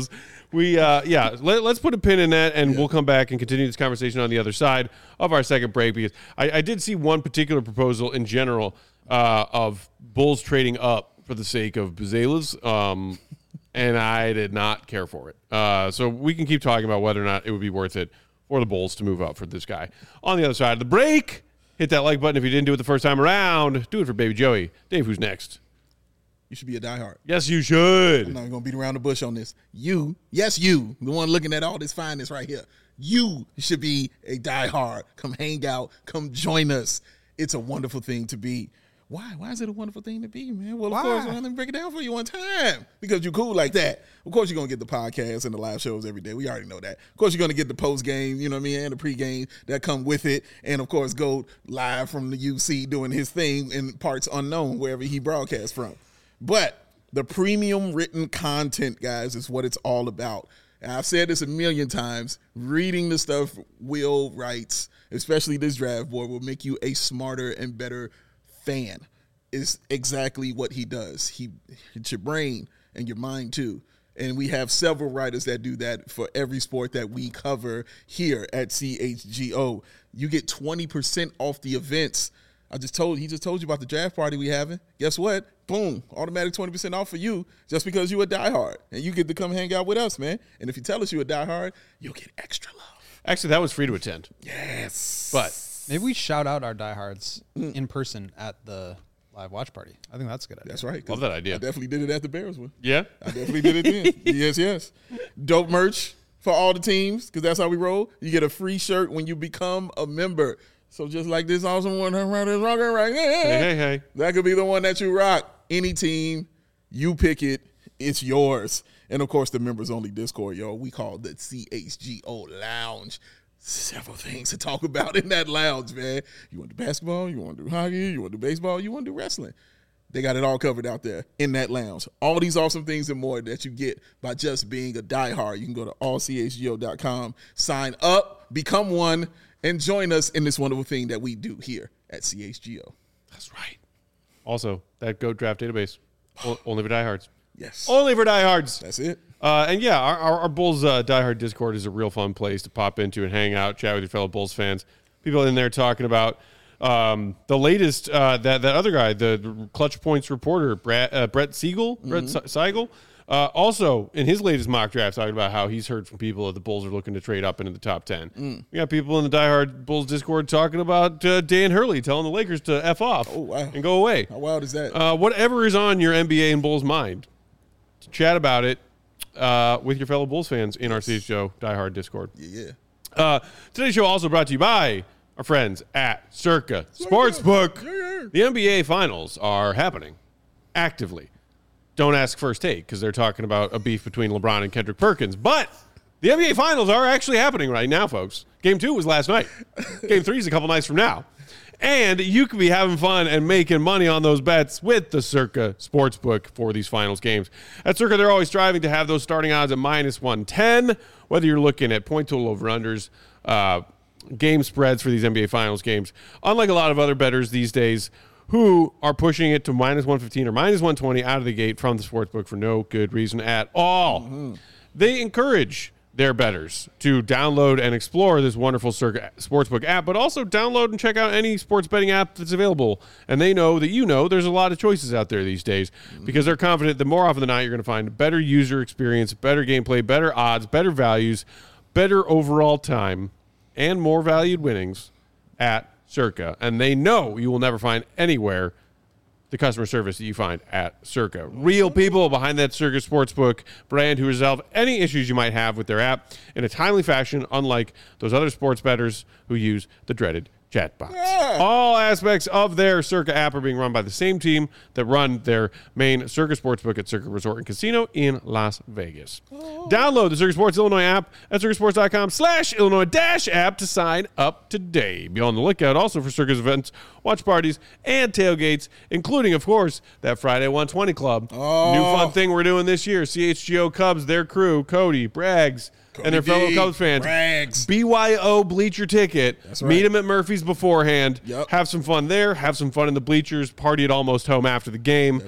we, uh, yeah, let, let's put a pin in that, and yeah. we'll come back and continue this conversation on the other side of our second break, because I, I did see one particular proposal in general uh, of Bulls trading up for the sake of Buzelas, um, and I did not care for it. Uh, so we can keep talking about whether or not it would be worth it for the Bulls to move up for this guy. On the other side of the break, hit that like button if you didn't do it the first time around. Do it for Baby Joey. Dave, who's next? You should be a diehard. Yes, you should. I'm not going to beat around the bush on this. You, yes, you, the one looking at all this fineness right here. You should be a diehard. Come hang out. Come join us. It's a wonderful thing to be. Why? Why is it a wonderful thing to be, man? Well, of Why? course, let me break it down for you one time. Because you're cool like that. Of course, you're going to get the podcasts and the live shows every day. We already know that. Of course, you're going to get the post game, you know what I mean, and the pregame that come with it. And, of course, go live from the U C doing his thing in parts unknown, wherever he broadcasts from. But the premium written content, guys, is what it's all about. And I've said this a million times. Reading the stuff Will writes, especially this draft board, will make you a smarter and better fan. Is exactly what he does. He hits your brain and your mind too. And we have several writers that do that for every sport that we cover here at C H G O. You get twenty percent off the events. I just told he just told you about the draft party we having. Guess what? Boom, automatic twenty percent off for you just because you a diehard. And you get to come hang out with us, man. And if you tell us you a diehard, you'll get extra love. Actually, that was free to attend. Yes. But maybe we shout out our diehards mm. in person at the live watch party. I think that's a good idea. That's right. Love that idea. I definitely did it at the Bears one. Yeah? I definitely did it then. Yes, yes. Dope merch for all the teams, because that's how we roll. You get a free shirt when you become a member. So just like this awesome one right is rocking right here. Hey, hey, hey. That could be the one that you rock. Any team, you pick it. It's yours. And, of course, the members-only Discord, yo, we call the C H G O Lounge. Several things to talk about in that lounge, man. You want to do basketball, you want to do hockey, you want to do baseball, you want to do wrestling. They got it all covered out there in that lounge. All these awesome things and more that you get by just being a diehard. You can go to all c h g o dot com, sign up, become one, and join us in this wonderful thing that we do here at C H G O. That's right. Also, that GOAT draft database, only for diehards. Yes. Only for diehards. That's it. Uh, and yeah, our, our, our Bulls uh, diehard Discord is a real fun place to pop into and hang out, chat with your fellow Bulls fans. People in there talking about um, the latest, uh, that, that other guy, the Clutch Points reporter, Brett, uh, Brett Siegel, mm-hmm. Brett Siegel, uh, also in his latest mock draft talking about how he's heard from people that the Bulls are looking to trade up into the top ten. Mm. We got people in the diehard Bulls Discord talking about uh, Dan Hurley telling the Lakers to F off oh, wow. and go away. How wild is that? Uh, whatever is on your N B A and Bulls mind, chat about it. Uh, with your fellow Bulls fans in our C H G O diehard Discord. Yeah. Uh, today's show also brought to you by our friends at Circa Sportsbook. Yeah. The N B A Finals are happening actively. Don't ask first take because they're talking about a beef between LeBron and Kendrick Perkins. But the N B A Finals are actually happening right now, folks. Game two was last night. Game three is a couple nights from now. And you could be having fun and making money on those bets with the Circa Sportsbook for these finals games. At Circa, they're always striving to have those starting odds at minus one ten, whether you're looking at point total over-unders, uh, game spreads for these N B A Finals games. Unlike a lot of other bettors these days who are pushing it to minus one fifteen or minus one twenty out of the gate from the Sportsbook for no good reason at all. Mm-hmm. They encourage their bettors to download and explore this wonderful Circa Sportsbook app, but also download and check out any sports betting app that's available. And they know that you know there's a lot of choices out there these days because they're confident that more often than not you're going to find better user experience, better gameplay, better odds, better values, better overall time, and more valued winnings at Circa. And they know you will never find anywhere the customer service that you find at Circa. Real people behind that Circa Sportsbook brand who resolve any issues you might have with their app in a timely fashion, unlike those other sports bettors who use the dreaded chatbots. Yeah. All aspects of their Circa app are being run by the same team that run their main Circa Sportsbook at Circa Resort and Casino in Las Vegas. Oh. Download the Circa Sports Illinois app at circasports.com slash Illinois dash app to sign up today. Be on the lookout also for Circa's events, watch parties, and tailgates, including, of course, that Friday one twenty Club. Oh. New fun thing we're doing this year. C H G O Cubs, their crew, Cody, Braggs, and their fellow Cubs fans. Brags. B Y O bleacher ticket. That's right. Meet them at Murphy's beforehand. Yep. Have some fun there. Have some fun in the bleachers. Party at Almost Home after the game. That's right.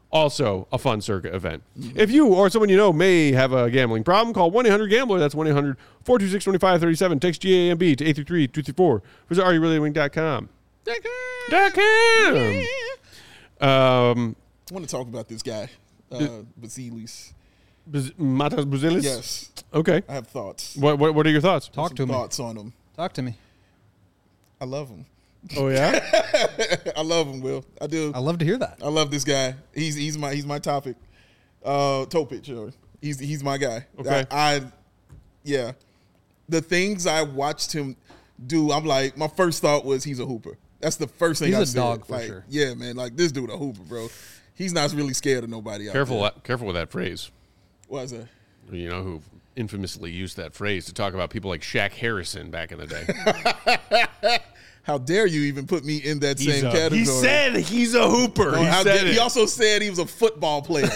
Also a fun circuit event. Mm-hmm. If you or someone you know may have a gambling problem, call one eight hundred gambler. That's one eight hundred four two six two five three seven. Text G A M B to eight three three two three four. Visit are you really winning dot com. Dot com. Um, I want to talk about this guy, uh, Bazilis. Baz- Matas Buzelis? Yes. Okay. I have thoughts. What, what What are your thoughts? Talk Some to me. Thoughts on him. Talk to me. I love him. Oh yeah. I love him, Will. I do. I love to hear that. I love this guy. He's he's my he's my topic. Uh, Topic, or he's he's my guy. Okay. I, I, yeah, the things I watched him do, I'm like, my first thought was he's a hooper. That's the first thing He's I a said. dog for like, sure. Yeah, man. Like this dude a hooper, bro. He's not really scared of nobody. Out Careful, there. careful with that phrase. What is that? You know who infamously used that phrase to talk about people like Shaq Harrison back in the day. How dare you even put me in that He's same a- category? He said he's a hooper. Oh, he how said dare- it. he also said he was a football player.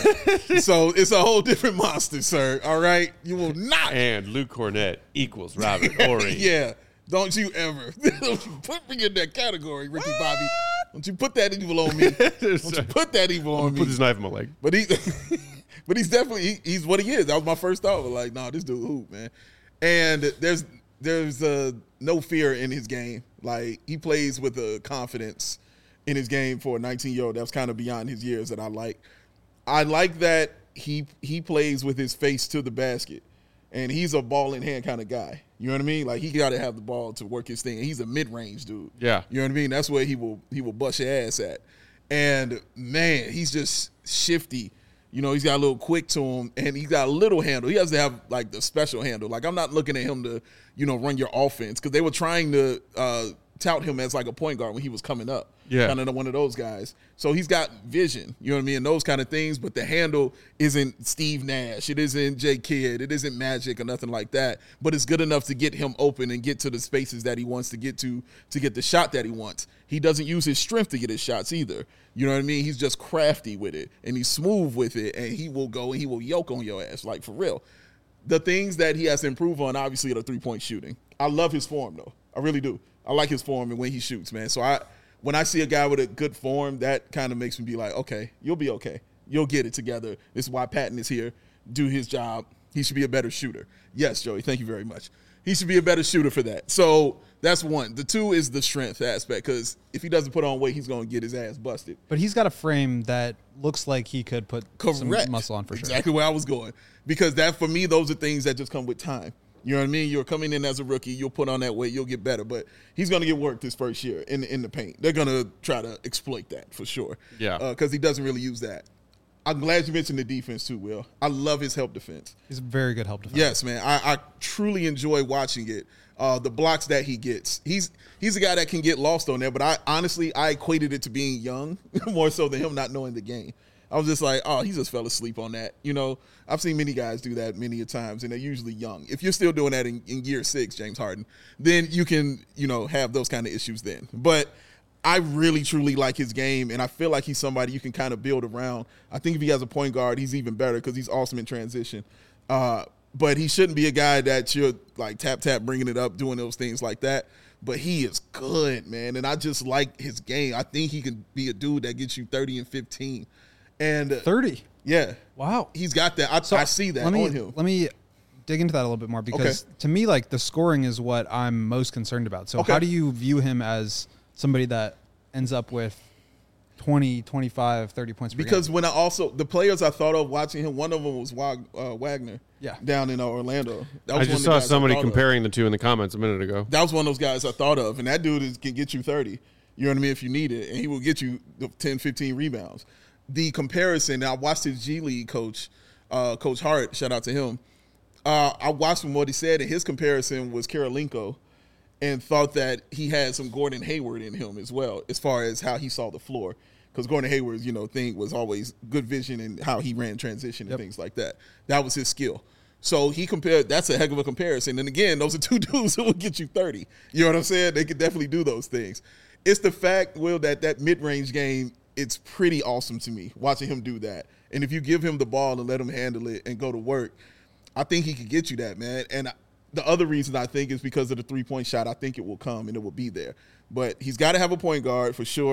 So it's a whole different monster, sir. All right? You will not. And Luke Cornett equals Robert Horry. Yeah. Don't you ever. Don't you put me in that category, Ricky Bobby. Don't you put that evil on me. Don't you put that evil on me. Put his knife in my leg. But he, but he's definitely he, he's what he is. That was my first thought. Like, nah, this dude hoop, man. And there's there's uh, no fear in his game. Like he plays with a confidence in his game for a nineteen year old. That's kind of beyond his years that I like. I like that he he plays with his face to the basket, and he's a ball in hand kind of guy. You know what I mean? Like he got to have the ball to work his thing. And he's a mid range dude. Yeah. You know what I mean? That's where he will he will bust your ass at. And man, he's just shifty. You know, he's got a little quick to him, and he's got a little handle. He has to have like the special handle. Like I'm not looking at him to, you know, run your offense because they were trying to uh, tout him as like a point guard when he was coming up. Yeah. Kind of one of those guys. So he's got vision, you know what I mean, and those kind of things. But the handle isn't Steve Nash. It isn't J Kidd. It isn't Magic or nothing like that. But it's good enough to get him open and get to the spaces that he wants to get to to get the shot that he wants. He doesn't use his strength to get his shots either. You know what I mean? He's just crafty with it, and he's smooth with it, and he will go and he will yoke on your ass, like for real. The things that he has to improve on, obviously, are the three-point shooting. I love his form, though. I really do. I like his form and when he shoots, man. So I, when I see a guy with a good form, that kind of makes me be like, okay, you'll be okay. You'll get it together. This is why Patton is here. Do his job. He should be a better shooter. Yes, Joey, thank you very much. He should be a better shooter for that. So that's one. The two is the strength aspect, because if he doesn't put on weight, he's going to get his ass busted. But he's got a frame that looks like he could put Correct. some muscle on for sure. Exactly where I was going. Because that, for me, those are things that just come with time. You know what I mean? You're coming in as a rookie. You'll put on that weight. You'll get better. But he's going to get work this first year in, in the paint. They're going to try to exploit that for sure. Yeah. Because uh, he doesn't really use that. I'm glad you mentioned the defense too, Will. I love his help defense. He's a very good help defense. Yes, man. I, I truly enjoy watching it. Uh, the blocks that he gets. He's he's a guy that can get lost on there, but I honestly, I equated it to being young more so than him not knowing the game. I was just like, oh, he just fell asleep on that. You know, I've seen many guys do that many a times, and they're usually young. If you're still doing that in, in year six, James Harden, then you can, you know, have those kind of issues then. But I really, truly like his game, and I feel like he's somebody you can kind of build around. I think if he has a point guard, he's even better because he's awesome in transition. Uh, but he shouldn't be a guy that you're like tap, tap, bringing it up, doing those things like that. But he is good, man, and I just like his game. I think he can be a dude that gets you thirty and fifteen. And uh, thirty. Yeah. Wow. He's got that. I, So I see that let me, on him. Let me dig into that a little bit more because Okay. to me, like the scoring is what I'm most concerned about. So Okay. how do you view him as somebody that ends up with twenty, twenty-five, thirty points per Because game? when I also, the players I thought of watching him, one of them was Wag, uh, Wagner Yeah. down in uh, Orlando. That I was one just of the saw guys I somebody thought of. comparing the two in the comments a minute ago. That was one of those guys I thought of, and that dude is, can get you thirty. You know what I mean? If you need it, and he will get you the ten, fifteen rebounds. The comparison, I watched his G League coach, uh, Coach Hart, shout out to him. Uh, I watched him what he said, and his comparison was Karolinko, and thought that he had some Gordon Hayward in him as well, as far as how he saw the floor. Because Gordon Hayward's, you know, thing was always good vision and how he ran transition and Yep. things like that. That was his skill. So he compared, that's a heck of a comparison. And again, those are two dudes who will get you thirty. You know what I'm saying? They could definitely do those things. It's the fact, Will, that that mid-range game, it's pretty awesome to me, watching him do that. And if you give him the ball and let him handle it and go to work, I think he could get you that, man. And the other reason I think is because of the three-point shot. I think it will come and it will be there. But he's got to have a point guard for sure.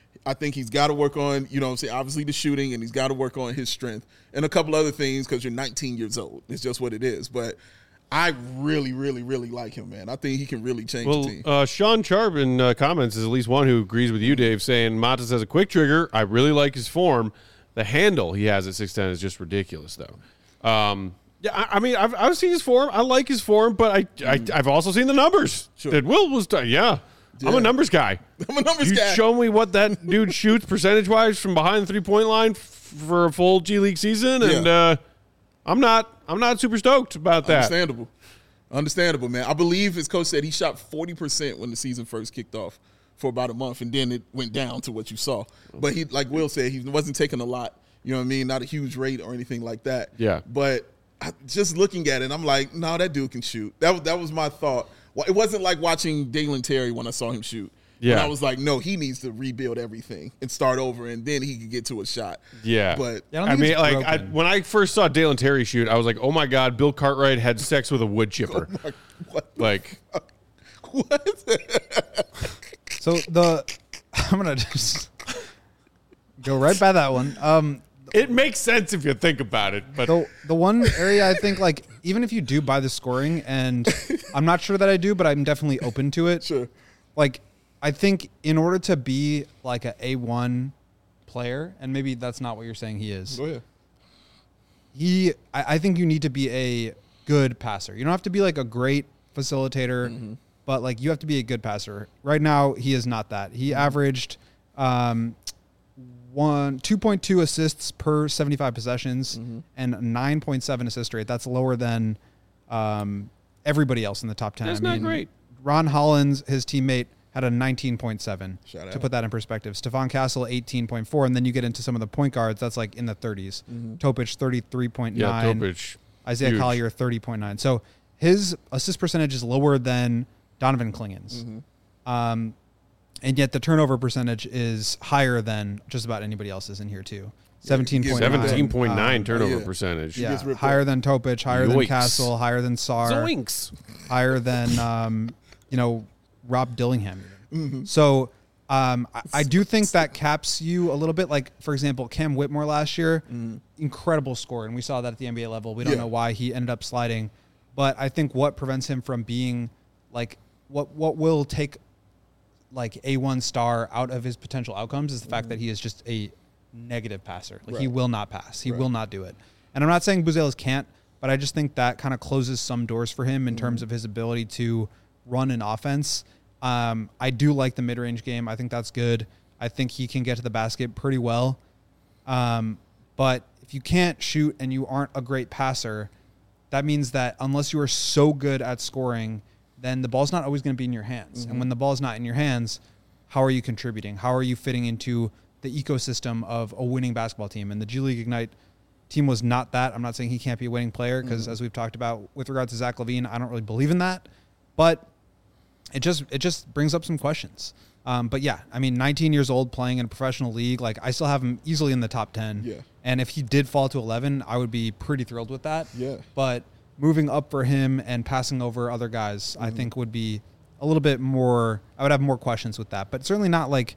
I think he's got to work on, you know what I'm saying, obviously the shooting, and he's got to work on his strength and a couple other things because you're nineteen years old. It's just what it is. But I really, really, really like him, man. I think he can really change Well, the team. uh, Sean Sharp in uh, comments is at least one who agrees with you, Dave, saying Matas has a quick trigger. I really like his form. The handle he has at six ten is just ridiculous, though. Um, yeah, I, I mean, I've, I've seen his form. I like his form, but I, I, I've also seen the numbers. Sure. That Will was done. Yeah. Yeah. I'm a numbers guy. I'm a numbers you guy. show me what that dude shoots percentage-wise from behind the three-point line f- for a full G League season, and Yeah. uh, I'm not I'm not super stoked about that. Understandable. Understandable, man. I believe his coach said he shot forty percent when the season first kicked off for about a month, and then it went down to what you saw. But he, like Will said, he wasn't taking a lot. You know what I mean? Not a huge rate or anything like that. Yeah. But I, just looking at it, I'm like, no, that dude can shoot. That was, that was my thought. Well, it wasn't like watching Dalen Terry when I saw him shoot. Yeah. And I was like, no, he needs to rebuild everything and start over, and then he could get to a shot. Yeah. But Yeah, I don't I think mean, it's like I, broken. when I first saw Dalen Terry shoot, I was like, "Oh my God, Bill Cartwright had sex with a wood chipper." like, what? the Like, fuck? What? So the I'm gonna just go right by that one. Um, it makes sense if you think about it, but the the one area I think like even if you do buy the scoring, and I'm not sure that I do, but I'm definitely open to it. Sure. Like I think in order to be like a A one player, and maybe that's not what you're saying he is. Go ahead. He I, I think you need to be a good passer. You don't have to be like a great facilitator, Mm-hmm. but like you have to be a good passer. Right now he is not that. He Mm-hmm. averaged um one two point two assists per seventy-five possessions Mm-hmm. and nine point seven assist rate. That's lower than um everybody else in the top ten. That's I not mean, great. Ron Hollins, his teammate, had a nineteen point seven. Shout To out. put that in perspective, Stephon Castle eighteen point four, and then you get into some of the point guards. That's like in the thirties. Mm-hmm. Topich thirty-three point yeah, nine. Topich. Isaiah huge. Collier thirty point nine. So his assist percentage is lower than Donovan Klingen's. Mm-hmm. Um, and yet the turnover percentage is higher than just about anybody else's in here too. seventeen point nine. Seventeen point nine Um, turnover Oh, yeah. percentage. yeah, gets ripped higher up. than Topich, higher than Yoicks. Castle, higher than Sarr, Zoinks. higher than um, you know Rob Dillingham. even. Mm-hmm. So um, I, I do think that caps you a little bit. Like for example, Cam Whitmore last year, incredible score, and we saw that at the N B A level. We don't Yeah. know why he ended up sliding, but I think what prevents him from being like what what will take like a one star out of his potential outcomes is the fact that he is just a negative passer. Like he Right. will not pass. He Right. will not do it. And I'm not saying Buzelis can't, but I just think that kind of closes some doors for him in terms of his ability to run an offense. Um, I do like the mid-range game. I think that's good. I think he can get to the basket pretty well. Um, but if you can't shoot and you aren't a great passer, that means that unless you are so good at scoring, then the ball's not always going to be in your hands. And when the ball's not in your hands, how are you contributing? How are you fitting into the ecosystem of a winning basketball team? And the G League Ignite team was not that. I'm not saying he can't be a winning player because, as we've talked about with regard to Zach LaVine, I don't really believe in that. But it just it just brings up some questions. Um, but yeah, I mean, nineteen years old playing in a professional league, like I still have him easily in the top ten. Yeah. And if he did fall to eleven, I would be pretty thrilled with that. Yeah. But moving up for him and passing over other guys, I think would be a little bit more. I would have more questions with that, but certainly not like.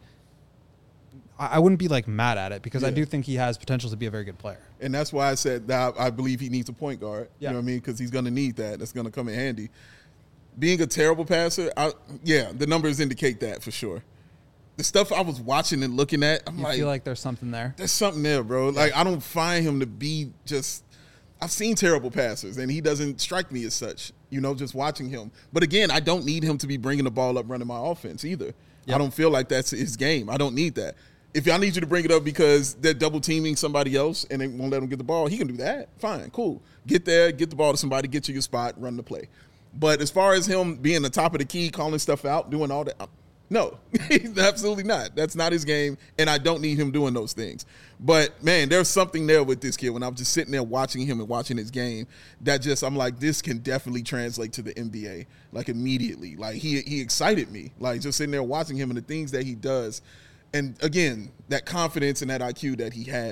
I I wouldn't be like mad at it because I Yeah. do think he has potential to be a very good player. And that's why I said that I believe he needs a point guard. Yeah. You know what I mean? Because he's going to need that. That's going to come in handy. Being a terrible passer, I, yeah, the numbers indicate that for sure. The stuff I was watching and looking at, I'm You like, feel like there's something there? there's something there, bro. Like, I don't find him to be just. I've seen terrible passers, and he doesn't strike me as such, you know, just watching him. But again, I don't need him to be bringing the ball up running my offense either. Yep. I don't feel like that's his game. I don't need that. If I need you to bring it up because they're double teaming somebody else and they won't let him get the ball, he can do that. Fine, cool. Get there, get the ball to somebody, get to your spot, run the play. But as far as him being the top of the key, calling stuff out, doing all that, no, he's absolutely not. That's not his game, and I don't need him doing those things. But, man, there's something there with this kid. When I'm just sitting there watching him and watching his game, that just, I'm like, this can definitely translate to the N B A, like, immediately. Like, he he excited me, like, just sitting there watching him and the things that he does. And, again, that confidence and that I Q that he has,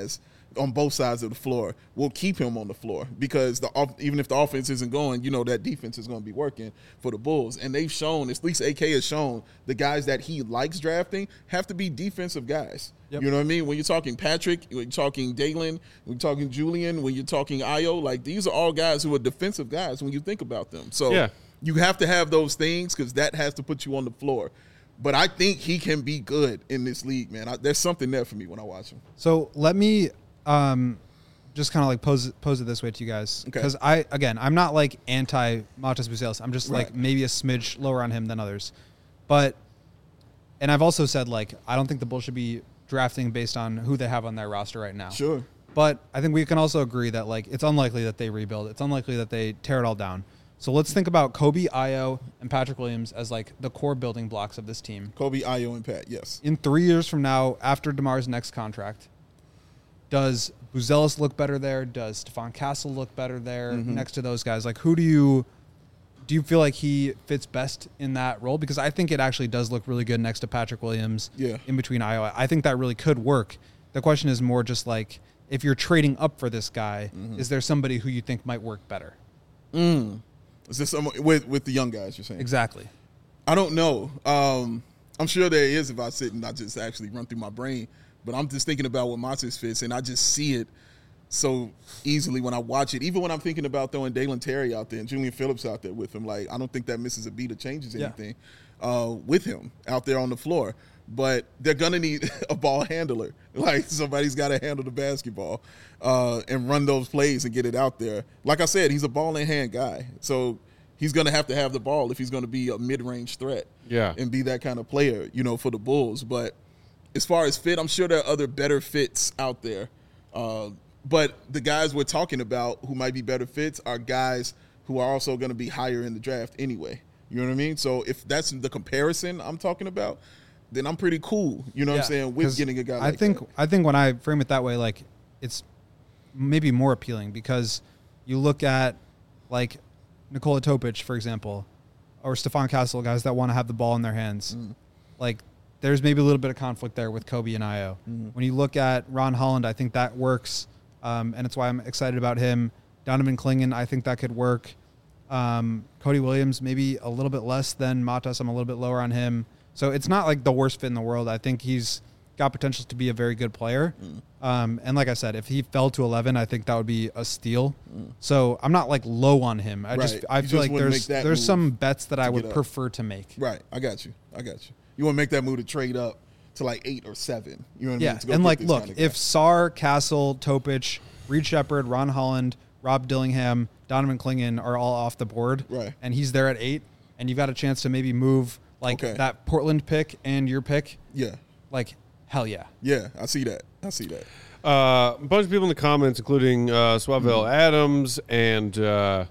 on both sides of the floor will keep him on the floor because the even if the offense isn't going, you know that defense is going to be working for the Bulls. And they've shown, at least A K has shown, the guys that he likes drafting have to be defensive guys. Yep. You know what I mean? When you're talking Patrick, when you're talking Dalen, when you're talking Julian, when you're talking Ayo, like these are all guys who are defensive guys when you think about them. So yeah. you have to have those things because that has to put you on the floor. But I think he can be good in this league, man. I, there's something there for me when I watch him. So let me um, just kind of like pose pose it this way to you guys, because Okay. I again I'm not like anti Matas Buzelis. I'm just Right. like maybe a smidge lower on him than others, but and I've also said like I don't think the Bulls should be drafting based on who they have on their roster right now. Sure. But I think we can also agree that like it's unlikely that they rebuild. It's unlikely that they tear it all down. So let's think about Kobe, Ayo, and Patrick Williams as like the core building blocks of this team. Kobe, Ayo, and Pat, yes. In three years from now, after DeMar's next contract, does Buzelis look better there? Does Stephon Castle look better there Mm-hmm. next to those guys? Like, who do you do you feel like he fits best in that role? Because I think it actually does look really good next to Patrick Williams. Yeah. In between Ayo, I think that really could work. The question is more just like if you're trading up for this guy, Mm-hmm. is there somebody who you think might work better? Mm. Is this someone with with the young guys? You're saying? Exactly. I don't know. Um, I'm sure there is if I sit and I just actually run through my brain. But I'm just thinking about what Matas fits, and I just see it so easily when I watch it. Even when I'm thinking about throwing Dalen Terry out there and Julian Phillips out there with him, like I don't think that misses a beat or changes Yeah. anything uh, with him out there on the floor. But they're gonna need a ball handler. Like somebody's got to handle the basketball uh, and run those plays and get it out there. Like I said, he's a ball in hand guy, so he's gonna have to have the ball if he's gonna be a mid range threat. Yeah. and be that kind of player, you know, for the Bulls. But as far as fit, I'm sure there are other better fits out there. Uh, but the guys we're talking about who might be better fits are guys who are also going to be higher in the draft anyway. You know what I mean? So if that's the comparison I'm talking about, then I'm pretty cool. You know what I'm saying? With 'cause getting a guy I like think that. I think when I frame it that way, like it's maybe more appealing because you look at like Nikola Topic, for example, or Stephon Castle, guys that want to have the ball in their hands. Mm. Like there's maybe a little bit of conflict there with Kobe and Ayo. Mm. When you look at Ron Holland, I think that works, um, and it's why I'm excited about him. Donovan Clingan, I think that could work. Um, Cody Williams, maybe a little bit less than Matas. I'm a little bit lower on him. So it's not like the worst fit in the world. I think he's got potential to be a very good player. Mm. Um, and like I said, if he fell to eleven, I think that would be a steal. Mm. So I'm not like low on him. I just Right. I You feel just like wouldn't there's make that there's move some bets that I to would get up. prefer to make. Right. I got you. I got you. You want to make that move to trade up to like eight or seven. You know what I Yeah, mean? To go and get like, this look, kind of guy. if Sarr, Castle, Topic, Reed Shepard, Ron Holland, Rob Dillingham, Donovan Clingan are all off the board, Right. and he's there at eight, and you've got a chance to maybe move like Okay. that Portland pick and your pick, yeah. like hell yeah. Yeah. I see that. I see that. Uh, a bunch of people in the comments, including uh, Swavell Adams and uh,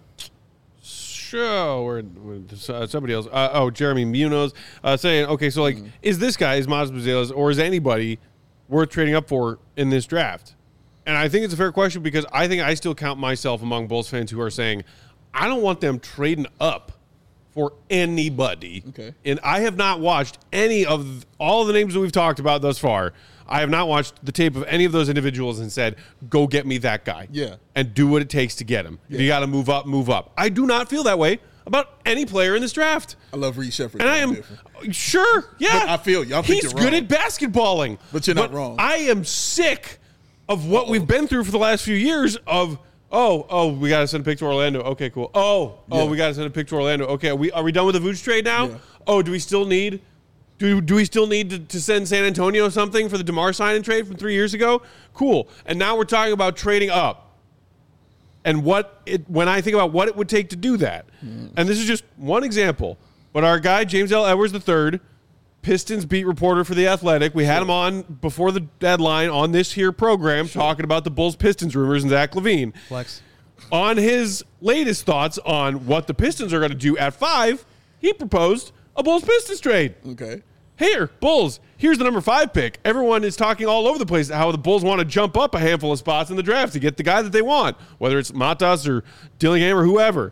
show or uh, somebody else. Uh, oh, Jeremy Munoz uh, saying, okay, so like, is this guy, is Matas Buzelis, or is anybody worth trading up for in this draft? And I think it's a fair question because I think I still count myself among Bulls fans who are saying, I don't want them trading up for anybody. Okay. And I have not watched any of all of the names that we've talked about thus far. I have not watched the tape of any of those individuals and said, go get me that guy. Yeah. And do what it takes to get him. If Yeah. you got to move up, move up. I do not feel that way about any player in this draft. I love Reed Shepard. And I I'm am different. sure, yeah. But I feel you. I think He's you're good wrong. at basketballing. But you're not wrong. I am sick of what we've been through for the last few years of, oh, oh, we got to send a pick to Orlando. Okay, cool. Oh, oh, Yeah. we got to send a pick to Orlando. Okay, are we, are we done with the Vooch trade now? Yeah. Oh, do we still need... Do, do we still need to, to send San Antonio something for the DeMar sign and trade from three years ago? Cool. And now we're talking about trading up. And what it when I think about what it would take to do that, Mm. and this is just one example, but our guy, James L. Edwards the third, Pistons beat reporter for The Athletic, we had him on before the deadline on this here program talking about the Bulls-Pistons rumors and Zach LaVine. Flex. On his latest thoughts on what the Pistons are going to do at five, he proposed a Bulls-Pistons trade. Okay. Here, Bulls, here's the number five pick. Everyone is talking all over the place how the Bulls want to jump up a handful of spots in the draft to get the guy that they want, whether it's Matas or Dillingham or whoever.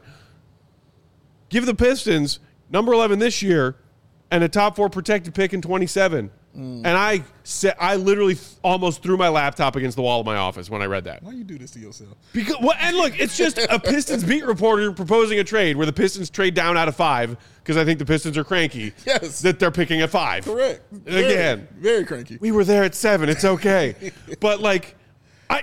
Give the Pistons number eleven this year and a top four protected pick in twenty-seven. Mm. And I said, I literally th- almost threw my laptop against the wall of my office when I read that. Why you do this to yourself? Because well, and look, it's just a Pistons beat reporter proposing a trade where the Pistons trade down out of five because I think the Pistons are cranky. Yes. That they're picking at five. Correct. Very, Again. Very cranky. We were there at seven. It's okay. But like, I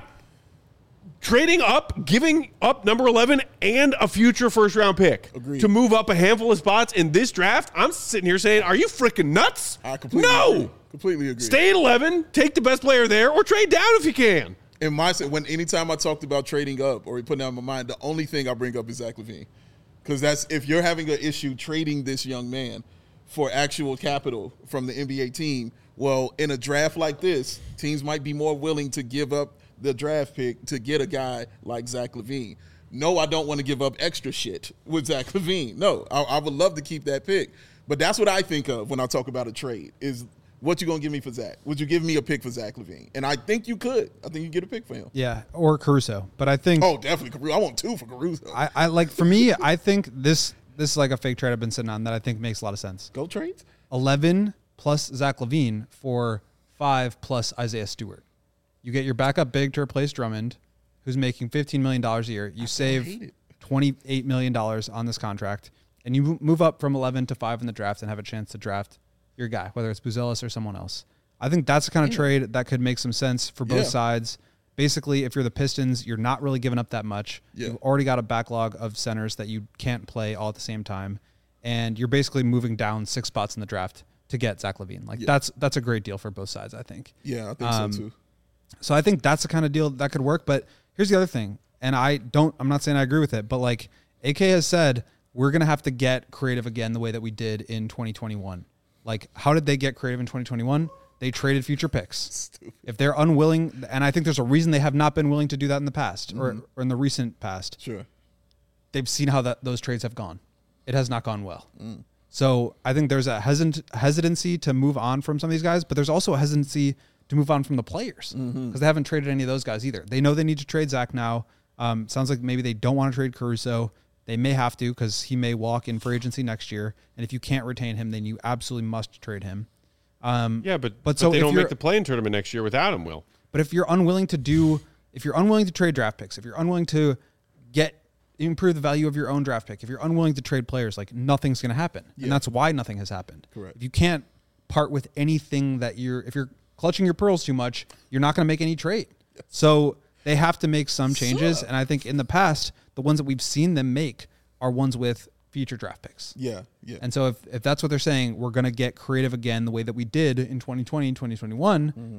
trading up, giving up number eleven and a future first round pick Agreed. to move up a handful of spots in this draft. I'm sitting here saying, are you freaking nuts? I completely no. agree. Completely agree. Stay at eleven, take the best player there, or trade down if you can. In my when anytime I talked about trading up or putting out in my mind, the only thing I bring up is Zach LaVine. Because that's if you're having an issue trading this young man for actual capital from the N B A team, well, in a draft like this, teams might be more willing to give up the draft pick to get a guy like Zach LaVine. No, I don't want to give up extra shit with Zach LaVine. No, I, I would love to keep that pick. But that's what I think of when I talk about a trade is what you going to give me for Zach? Would you give me a pick for Zach LaVine? And I think you could. I think you get a pick for him. Yeah, or Caruso. But I think Oh, definitely Caruso. I want two for Caruso. I, I like for me, I think this this is like a fake trade I've been sitting on that I think makes a lot of sense. Go trades? eleven plus Zach LaVine for five plus Isaiah Stewart. You get your backup big to replace Drummond, who's making fifteen million dollars a year. You I save twenty-eight million dollars on this contract, and you move up from eleven to five in the draft and have a chance to draft your guy, whether it's Buzelis or someone else. I think that's the kind of yeah. trade that could make some sense for both yeah. sides. Basically, if you're the Pistons, you're not really giving up that much. Yeah. You've already got a backlog of centers that you can't play all at the same time, and you're basically moving down six spots in the draft to get Zach LaVine. Like yeah. that's that's a great deal for both sides, I think. Yeah, I think um, so too. So I think that's the kind of deal that could work. But here's the other thing, and I don't. I'm not saying I agree with it, but like A K has said, we're gonna have to get creative again the way that we did in twenty twenty-one. Like, how did they get creative in twenty twenty-one? They traded future picks. Stupid. If they're unwilling, and I think there's a reason they have not been willing to do that in the past mm-hmm. or, or in the recent past. Sure. They've seen how that those trades have gone. It has not gone well. Mm. So I think there's a hesit- hesitancy to move on from some of these guys, but there's also a hesitancy to move on from the players because mm-hmm. they haven't traded any of those guys either. They know they need to trade Zach now. Um, sounds like maybe they don't want to trade Caruso. They may have to because he may walk in free agency next year. And if you can't retain him, then you absolutely must trade him. Um, yeah, but, but, but so they don't make the play-in tournament next year without him, Will. But if you're unwilling to do, if you're unwilling to trade draft picks, if you're unwilling to get improve the value of your own draft pick, if you're unwilling to trade players, like nothing's going to happen. Yeah. And that's why nothing has happened. Correct. If you can't part with anything that you're, if you're clutching your pearls too much, you're not going to make any trade. Yes. So they have to make some changes. So, and I think in the past, the ones that we've seen them make are ones with future draft picks. Yeah, yeah. And so if, if that's what they're saying, we're going to get creative again the way that we did in twenty twenty and twenty twenty-one, mm-hmm.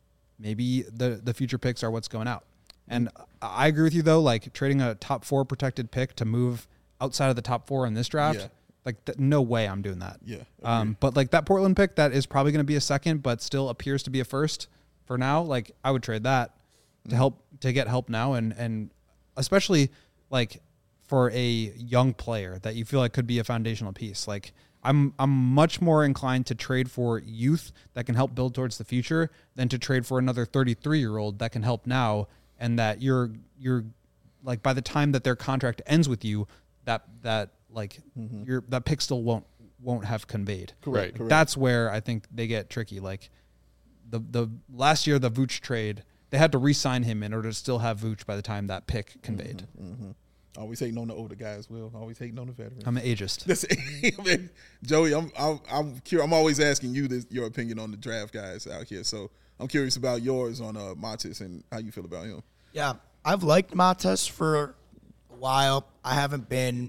maybe the, the future picks are what's going out. And I agree with you, though, like trading a top four protected pick to move outside of the top four in this draft, yeah. like th- no way I'm doing that. Yeah. Um, but like that Portland pick, that is probably going to be a second, but still appears to be a first for now. Like I would trade that mm-hmm. to help, to get help now. And, and especially like, for a young player that you feel like could be a foundational piece. Like I'm I'm much more inclined to trade for youth that can help build towards the future than to trade for another thirty-three-year-old that can help now and that you're you're like by the time that their contract ends with you, that that like mm-hmm. your that pick still won't won't have conveyed. Correct. Like, correct. That's where I think they get tricky. Like the the last year the Vooch trade, they had to re-sign him in order to still have Vooch by the time that pick conveyed. Mm-hmm, mm-hmm. Always hating on the older guys, Will. Always hating on the veterans. I'm an ageist. That's, I mean, Joey, I'm I'm I'm, curious, I'm always asking you this, your opinion on the draft guys out here. So I'm curious about yours on uh, Matas and how you feel about him. Yeah, I've liked Matas for a while. I haven't been,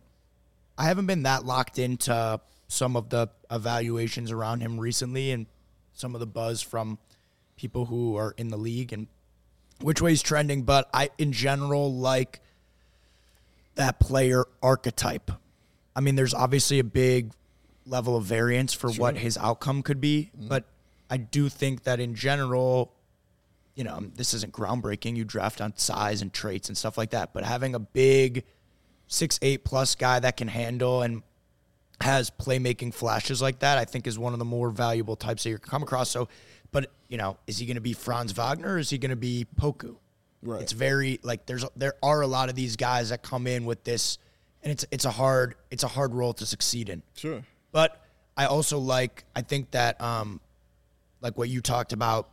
I haven't been that locked into some of the evaluations around him recently, and some of the buzz from people who are in the league and which way he's trending. But I, in general, like that player archetype. I mean, there's obviously a big level of variance for sure. what his outcome could be, mm-hmm. but I do think that in general, you know, this isn't groundbreaking. You draft on size and traits and stuff like that, but having a big six eight plus guy that can handle and has playmaking flashes like that, I think is one of the more valuable types that you can come across. So, but, you know, is he going to be Franz Wagner or is he going to be Poku? Right. It's very like there's there are a lot of these guys that come in with this, and it's it's a hard it's a hard role to succeed in. Sure. But I also like I think that um, like what you talked about,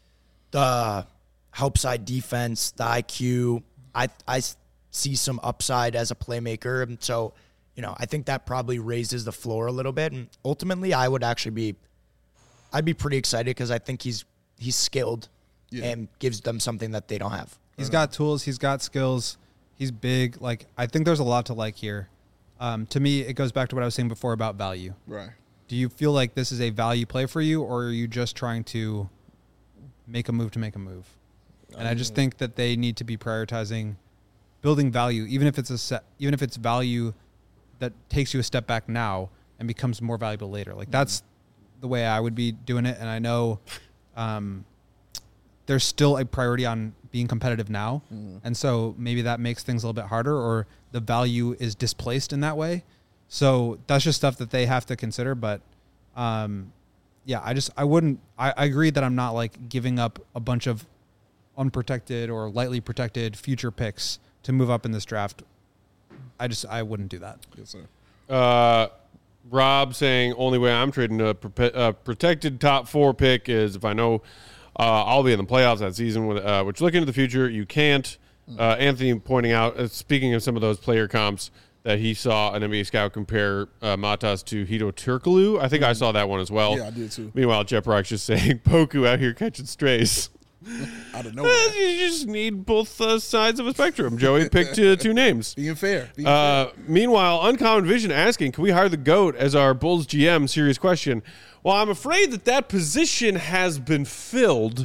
the help side defense, the I Q. I I see some upside as a playmaker, and so you know I think that probably raises the floor a little bit. And ultimately, I would actually be, I'd be pretty excited because I think he's he's skilled Yeah. and gives them something that they don't have. He's got tools. He's got skills. He's big. Like, I think there's a lot to like here. Um, to me, it goes back to what I was saying before about value. Right. Do you feel like this is a value play for you, or are you just trying to make a move to make a move? And I just think that they need to be prioritizing building value, even if it's a set, even if it's value that takes you a step back now and becomes more valuable later. Like, that's the way I would be doing it. And I know um, there's still a priority on being competitive now. Mm. And so maybe that makes things a little bit harder, or the value is displaced in that way. So that's just stuff that they have to consider. But um, yeah, I just, I wouldn't, I, I agree that I'm not like giving up a bunch of unprotected or lightly protected future picks to move up in this draft. I just, I wouldn't do that. Yes, sir. Uh, Rob saying only way I'm trading a, pro- a protected top four pick is if I know uh, I'll be in the playoffs that season. With, uh, which look into the future, you can't. Uh, Anthony pointing out, uh, speaking of some of those player comps, that he saw an N B A scout compare uh, Matas to Hito Turkoglu. I think I saw that one as well. Yeah, I did too. Meanwhile, Jeff Rock's just saying Poku out here catching strays. Out of nowhere. Eh, you just need both uh, sides of a spectrum. Joey picked uh, two names. Being fair. Being Uh, fair. meanwhile, Uncommon Vision asking, can we hire the GOAT as our Bulls G M? Serious question. Well, I'm afraid that that position has been filled.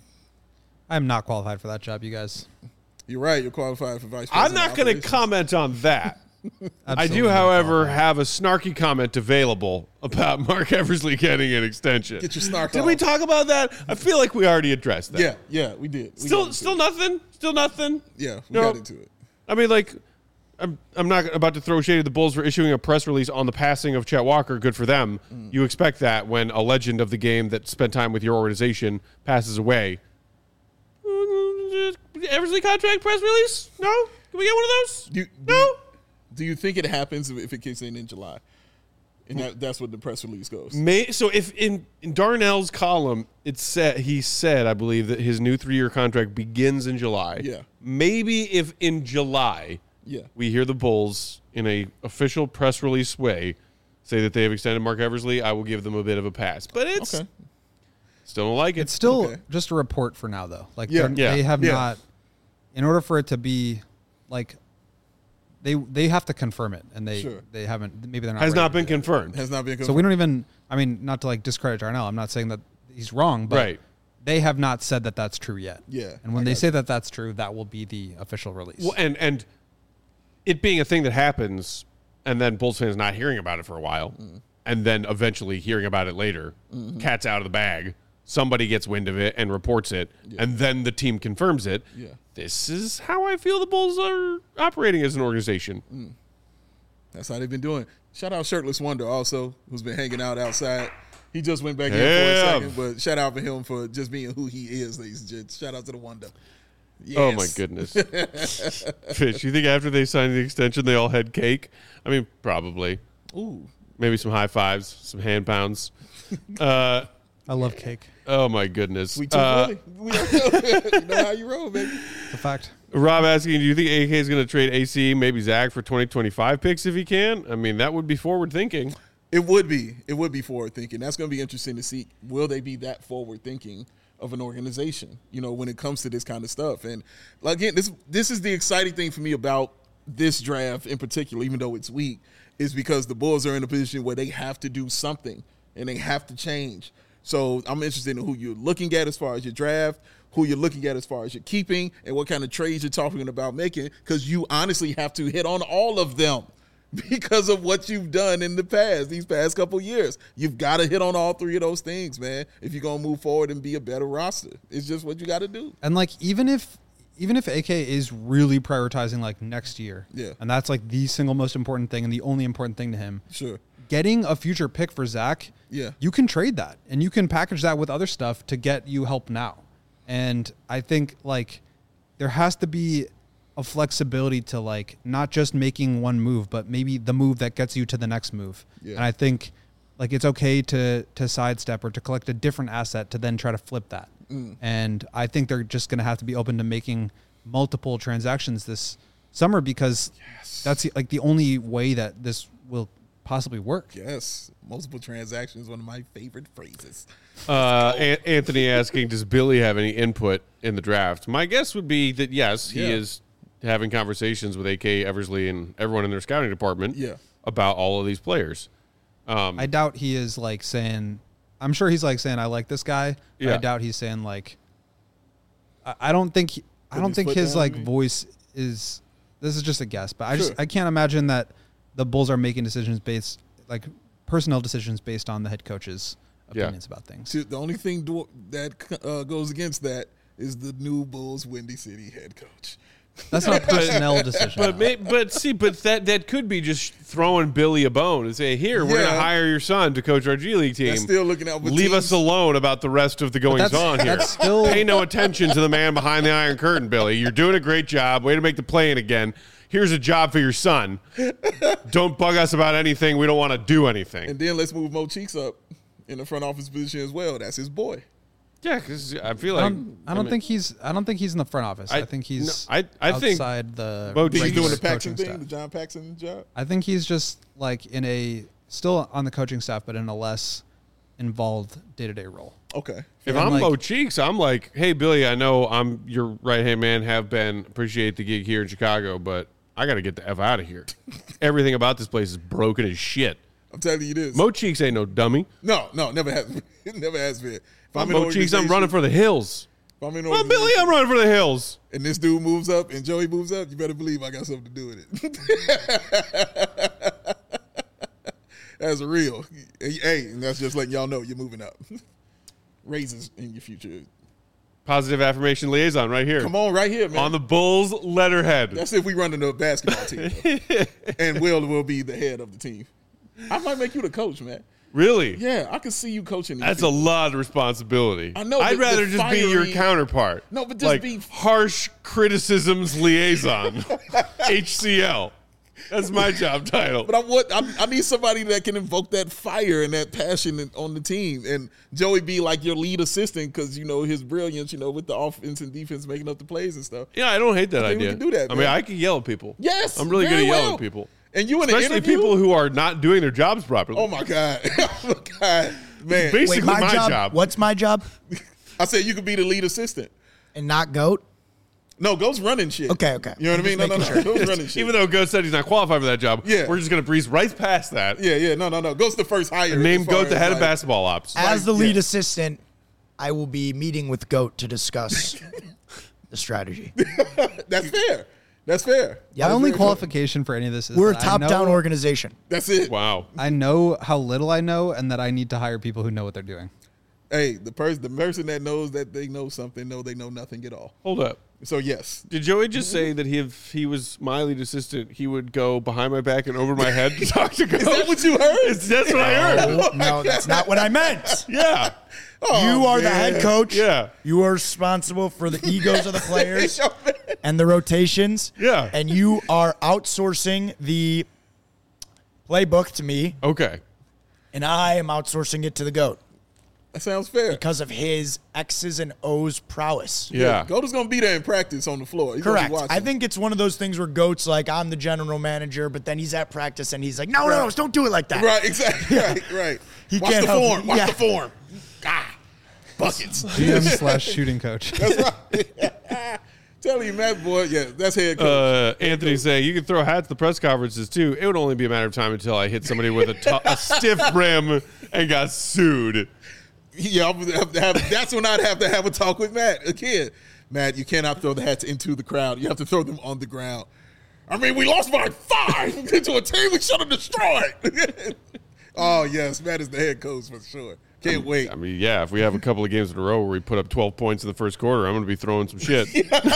I'm not qualified for that job, you guys. You're right. You're qualified for vice president. I'm not going to operations. comment on that. I do, Absolutely not however, qualified. have a snarky comment available about Mark Eversley getting an extension. Get your snark Did off. we talk about that? I feel like we already addressed that. Yeah, yeah, we did. We got Still, into still it. nothing. Still nothing. Yeah, we No. got into it. I mean, like, I'm I'm not about to throw shade at the Bulls for issuing a press release on the passing of Chet Walker. Good for them. Mm. You expect that when a legend of the game that spent time with your organization passes away. Eversley contract press release? No? Can we get one of those? Do, do, No? do you think it happens if it kicks in in July? And that, that's what the press release goes. May, so if in, in Darnell's column, it said he said, I believe, that his new three-year contract begins in July. Yeah. Maybe if in July Yeah. we hear the Bulls in a official press release way say that they have extended Mark Eversley, I will give them a bit of a pass. But it's Okay. still don't like it. It's still Okay. just a report for now, though. Like, Yeah. they're- Yeah. they have Yeah. not, in order for it to be, like, they they have to confirm it, and they Sure. they haven't. Maybe they're not. has ready not to been do that. confirmed. Has not been confirmed. So we don't even. I mean, not to like discredit Darnell. I'm not saying that he's wrong, but Right. they have not said that that's true yet. Yeah, And when I they got say that that's true, that will be the official release. Well, and and it being a thing that happens, and then Bulls fans not hearing about it for a while, Mm. and then eventually hearing about it later, Mm-hmm. cat's out of the bag. Somebody gets wind of it and reports it, and then the team confirms it. Yeah. This is how I feel the Bulls are operating as an organization. Mm. That's how they've been doing. Shout out Shirtless Wonder also, who's been hanging out outside. He just went back in for a Damn. second, but shout out for him for just being who he is, ladies and gents. Shout out to the Wonder. Oh my Yes. goodness, Fish! You think after they signed the extension, they all had cake? I mean, probably. Ooh. Maybe some high fives, some hand pounds. Uh, I love cake. oh my goodness. We too Uh, early. We don't know. You know how you roll, baby. It's a fact. Rob asking, do you think A K is going to trade A C, maybe Zach for twenty twenty-five picks if he can? I mean, that would be forward thinking. It would be. It would be forward thinking. That's going to be interesting to see. Will they be that forward thinking of an organization, you know, when it comes to this kind of stuff? And again, this this is the exciting thing for me about this draft in particular, even though it's weak, is because the Bulls are in a position where they have to do something and they have to change. So I'm interested in who you're looking at as far as your draft, who you're looking at as far as your keeping, and what kind of trades you're talking about making, because you honestly have to hit on all of them because of what you've done in the past, these past couple years. You've got to hit on all three of those things, man, if you're going to move forward and be a better roster. It's just what you got to do. And like even if even if A K is really prioritizing like next year, Yeah. and that's like the single most important thing and the only important thing to him, Sure. getting a future pick for Zach, Yeah. you can trade that and you can package that with other stuff to get you help now. And I think like there has to be a flexibility to like not just making one move, but maybe the move that gets you to the next move. Yeah. And I think like it's okay to to sidestep or to collect a different asset to then try to flip that. Mm. And I think they're just going to have to be open to making multiple transactions this summer because yes. that's like the only way that this will possibly work. Yes, multiple transactions, one of my favorite phrases. Uh, a- Anthony asking, does Billy have any input in the draft? My guess would be that yes, he yeah. is having conversations with A K Eversley and everyone in their scouting department yeah. about all of these players. Um, I doubt he is like saying, I'm sure he's like saying, I like this guy. But yeah. I doubt he's saying like, I, I don't think, he, I don't think his like voice is, this is just a guess, but I sure. just, I can't imagine that the Bulls are making decisions based, like personnel decisions based on the head coach's opinions yeah. about things. See, the only thing do, that uh, goes against that is the new Bulls Windy City head coach. That's not a personnel decision. But may, but see, but that that could be just throwing Billy a bone and say, "Here, we're Yeah. going to hire your son to coach our G League team." They're still looking out for Leave teams. us alone about the rest of the goings on here. That's still Pay no attention to the man behind the Iron Curtain, Billy. You're doing a great job. Way to make the play-in again. Here's a job for your son. Don't bug us about anything. We don't want to do anything. And then let's move Mo Cheeks up in the front office position as well. That's his boy. Yeah, because I feel I like don't, I don't I mean, think he's. I don't think he's in the front office. I, I- think he's. no, I- I think outside the. Bo Cheeks He's regular doing the Paxson coaching thing, staff. the John Paxson job. I think he's just like in a still on the coaching staff, but in a less involved day to day role. Okay. if and I'm like- Mo Cheeks, I'm like, hey, Billy, I know I'm your right hand man. Have been appreciate the gig here in Chicago, but I got to get the f out of here. Everything about this place is broken as shit. I'm telling you this. Mo Cheeks ain't no dummy. no, no, never has. It never has been. If I'm in Mo Cheeks. I'm organization- running for the hills. If I'm in Well, Billy, I'm running for the hills. and this dude moves up and Joey moves up, you better believe I got something to do with it. That's real. Hey, and that's just letting y'all know you're moving up. Raises in your future. Positive affirmation liaison right here. Come on, right here, man. On the Bulls letterhead. That's if we run into a basketball team. And Will will be the head of the team. I might make you the coach, man. Really? Yeah, I can see you coaching these That's a people. lot of responsibility. I know, I'd but rather the just be your fiery- counterpart. No, but just like be- harsh criticisms liaison. H C L. That's my job title. But I want I, I need somebody that can invoke that fire and that passion in- on the team. And Joey be like your lead assistant because, you know, his brilliance, you know, with the offense and defense making up the plays and stuff. Yeah, I don't hate that I think we idea. can do that, I mean, man. I can yell at people. Yes, I'm really good very at yelling well. at people. And you in Especially an interview? people who are not doing their jobs properly. Oh, my God. oh, my God. Man. Basically Wait, my, my job, job. What's my job? I said you could be the lead assistant. And not goat. No, Go's running shit. Okay, okay. You know what I mean? No, no, no. Go's running shit. Even though Goat said he's not qualified for that job, Yeah. we're just going to breeze right past that. Yeah, yeah. No, no, no. Go's the first hire. And name as far Goat the as, head of like- basketball ops. As the lead yeah. assistant, I will be meeting with Goat to discuss the strategy. That's fair. That's fair. Yeah, My only very qualification for any of this is We're a that I top-down know- organization. That's it. Wow. I know how little I know, and that I need to hire people who know what they're doing. Hey, the person the person that knows that they know something know they know nothing at all. Hold up. So yes. Did Joey just say that he, if he was my lead assistant, he would go behind my back and over my head to talk to Goat? Is that what you heard? It's- That's what I heard. Oh, no, that's not what I meant. Yeah. you are the man. head coach. Yeah. You are responsible for the egos of the players Yo, man. and the rotations. Yeah. And you are outsourcing the playbook to me, Okay. and I am outsourcing it to the GOAT That sounds fair. because of his X's and O's prowess. Yeah. Goat is gonna be there in practice on the floor. He's gonna be Correct. watching. I think it's one of those things where GOAT's like, I'm the general manager, but then he's at practice and he's like, no, no, no, don't do it like that. Right, exactly. Right, right. He Watch can't the help form. it. Watch Yeah. the form. Ah, buckets. G M slash shooting coach. That's right. Telling you, Matt, boy, yeah, that's head coach. Uh, Anthony saying you can throw hats at the press conferences too. It would only be a matter of time until I hit somebody with a, t- a stiff brim and got sued. Yeah, I would have to have, that's when I'd have to have a talk with Matt again. Matt, you cannot throw the hats into the crowd. You have to throw them on the ground. I mean, we lost by five to a team we should have destroyed. Oh yes, Matt is the head coach for sure. Can't wait. I mean, yeah, if we have a couple of games in a row where we put up twelve points in the first quarter, I'm going to be throwing some shit.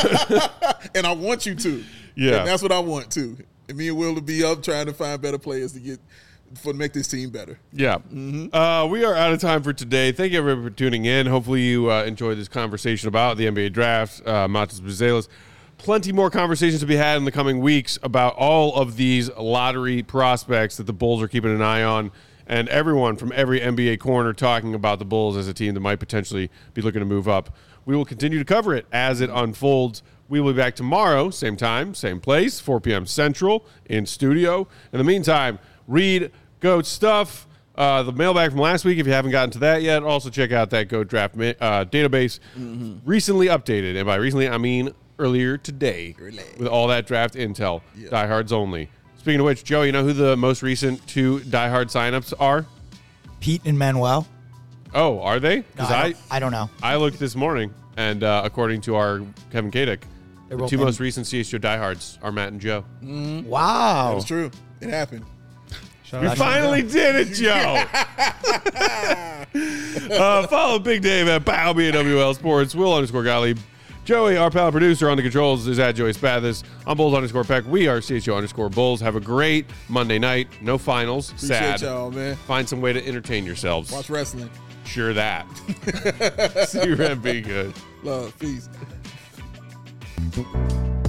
And I want you to. Yeah. And that's what I want too. And me and Will to be up trying to find better players to get for make this team better. Yeah. Uh, we are out of time for today. Thank you everybody for tuning in. Hopefully you uh, enjoyed this conversation about the N B A draft. Uh, Matas Buzelis. Plenty more conversations to be had in the coming weeks about all of these lottery prospects that the Bulls are keeping an eye on and everyone from every N B A corner talking about the Bulls as a team that might potentially be looking to move up. We will continue to cover it as it unfolds. We will be back tomorrow, same time, same place, four p.m. Central in studio. In the meantime, read GOAT stuff. Uh, the mailbag from last week, if you haven't gotten to that yet, also check out that GOAT draft uh, database. Mm-hmm. Recently updated, and by recently, I mean earlier today, Early. with all that draft intel. Yep. Diehards only. Speaking of which, Joe, you know who the most recent two diehard signups are? Pete and Manuel. Oh, are they? No, I, don't, I, I don't know. I looked this morning, and uh, according to our Kevin Kadick, the two in. most recent C H G O diehards are Matt and Joe. Mm-hmm. Wow. That's true. It happened. Shout we finally did it, Joe. uh, follow Big Dave at Pow B W L Sports. Will underscore Gottlieb. Joey, our pal producer on the controls, is at Joey Spathis. I'm Bulls underscore Peck. We are C H G O underscore Bulls. Have a great Monday night. No finals. Appreciate Sad. y'all, man. Find some way to entertain yourselves. Watch wrestling. Sure that. See you, Red. Be good. Love. Peace.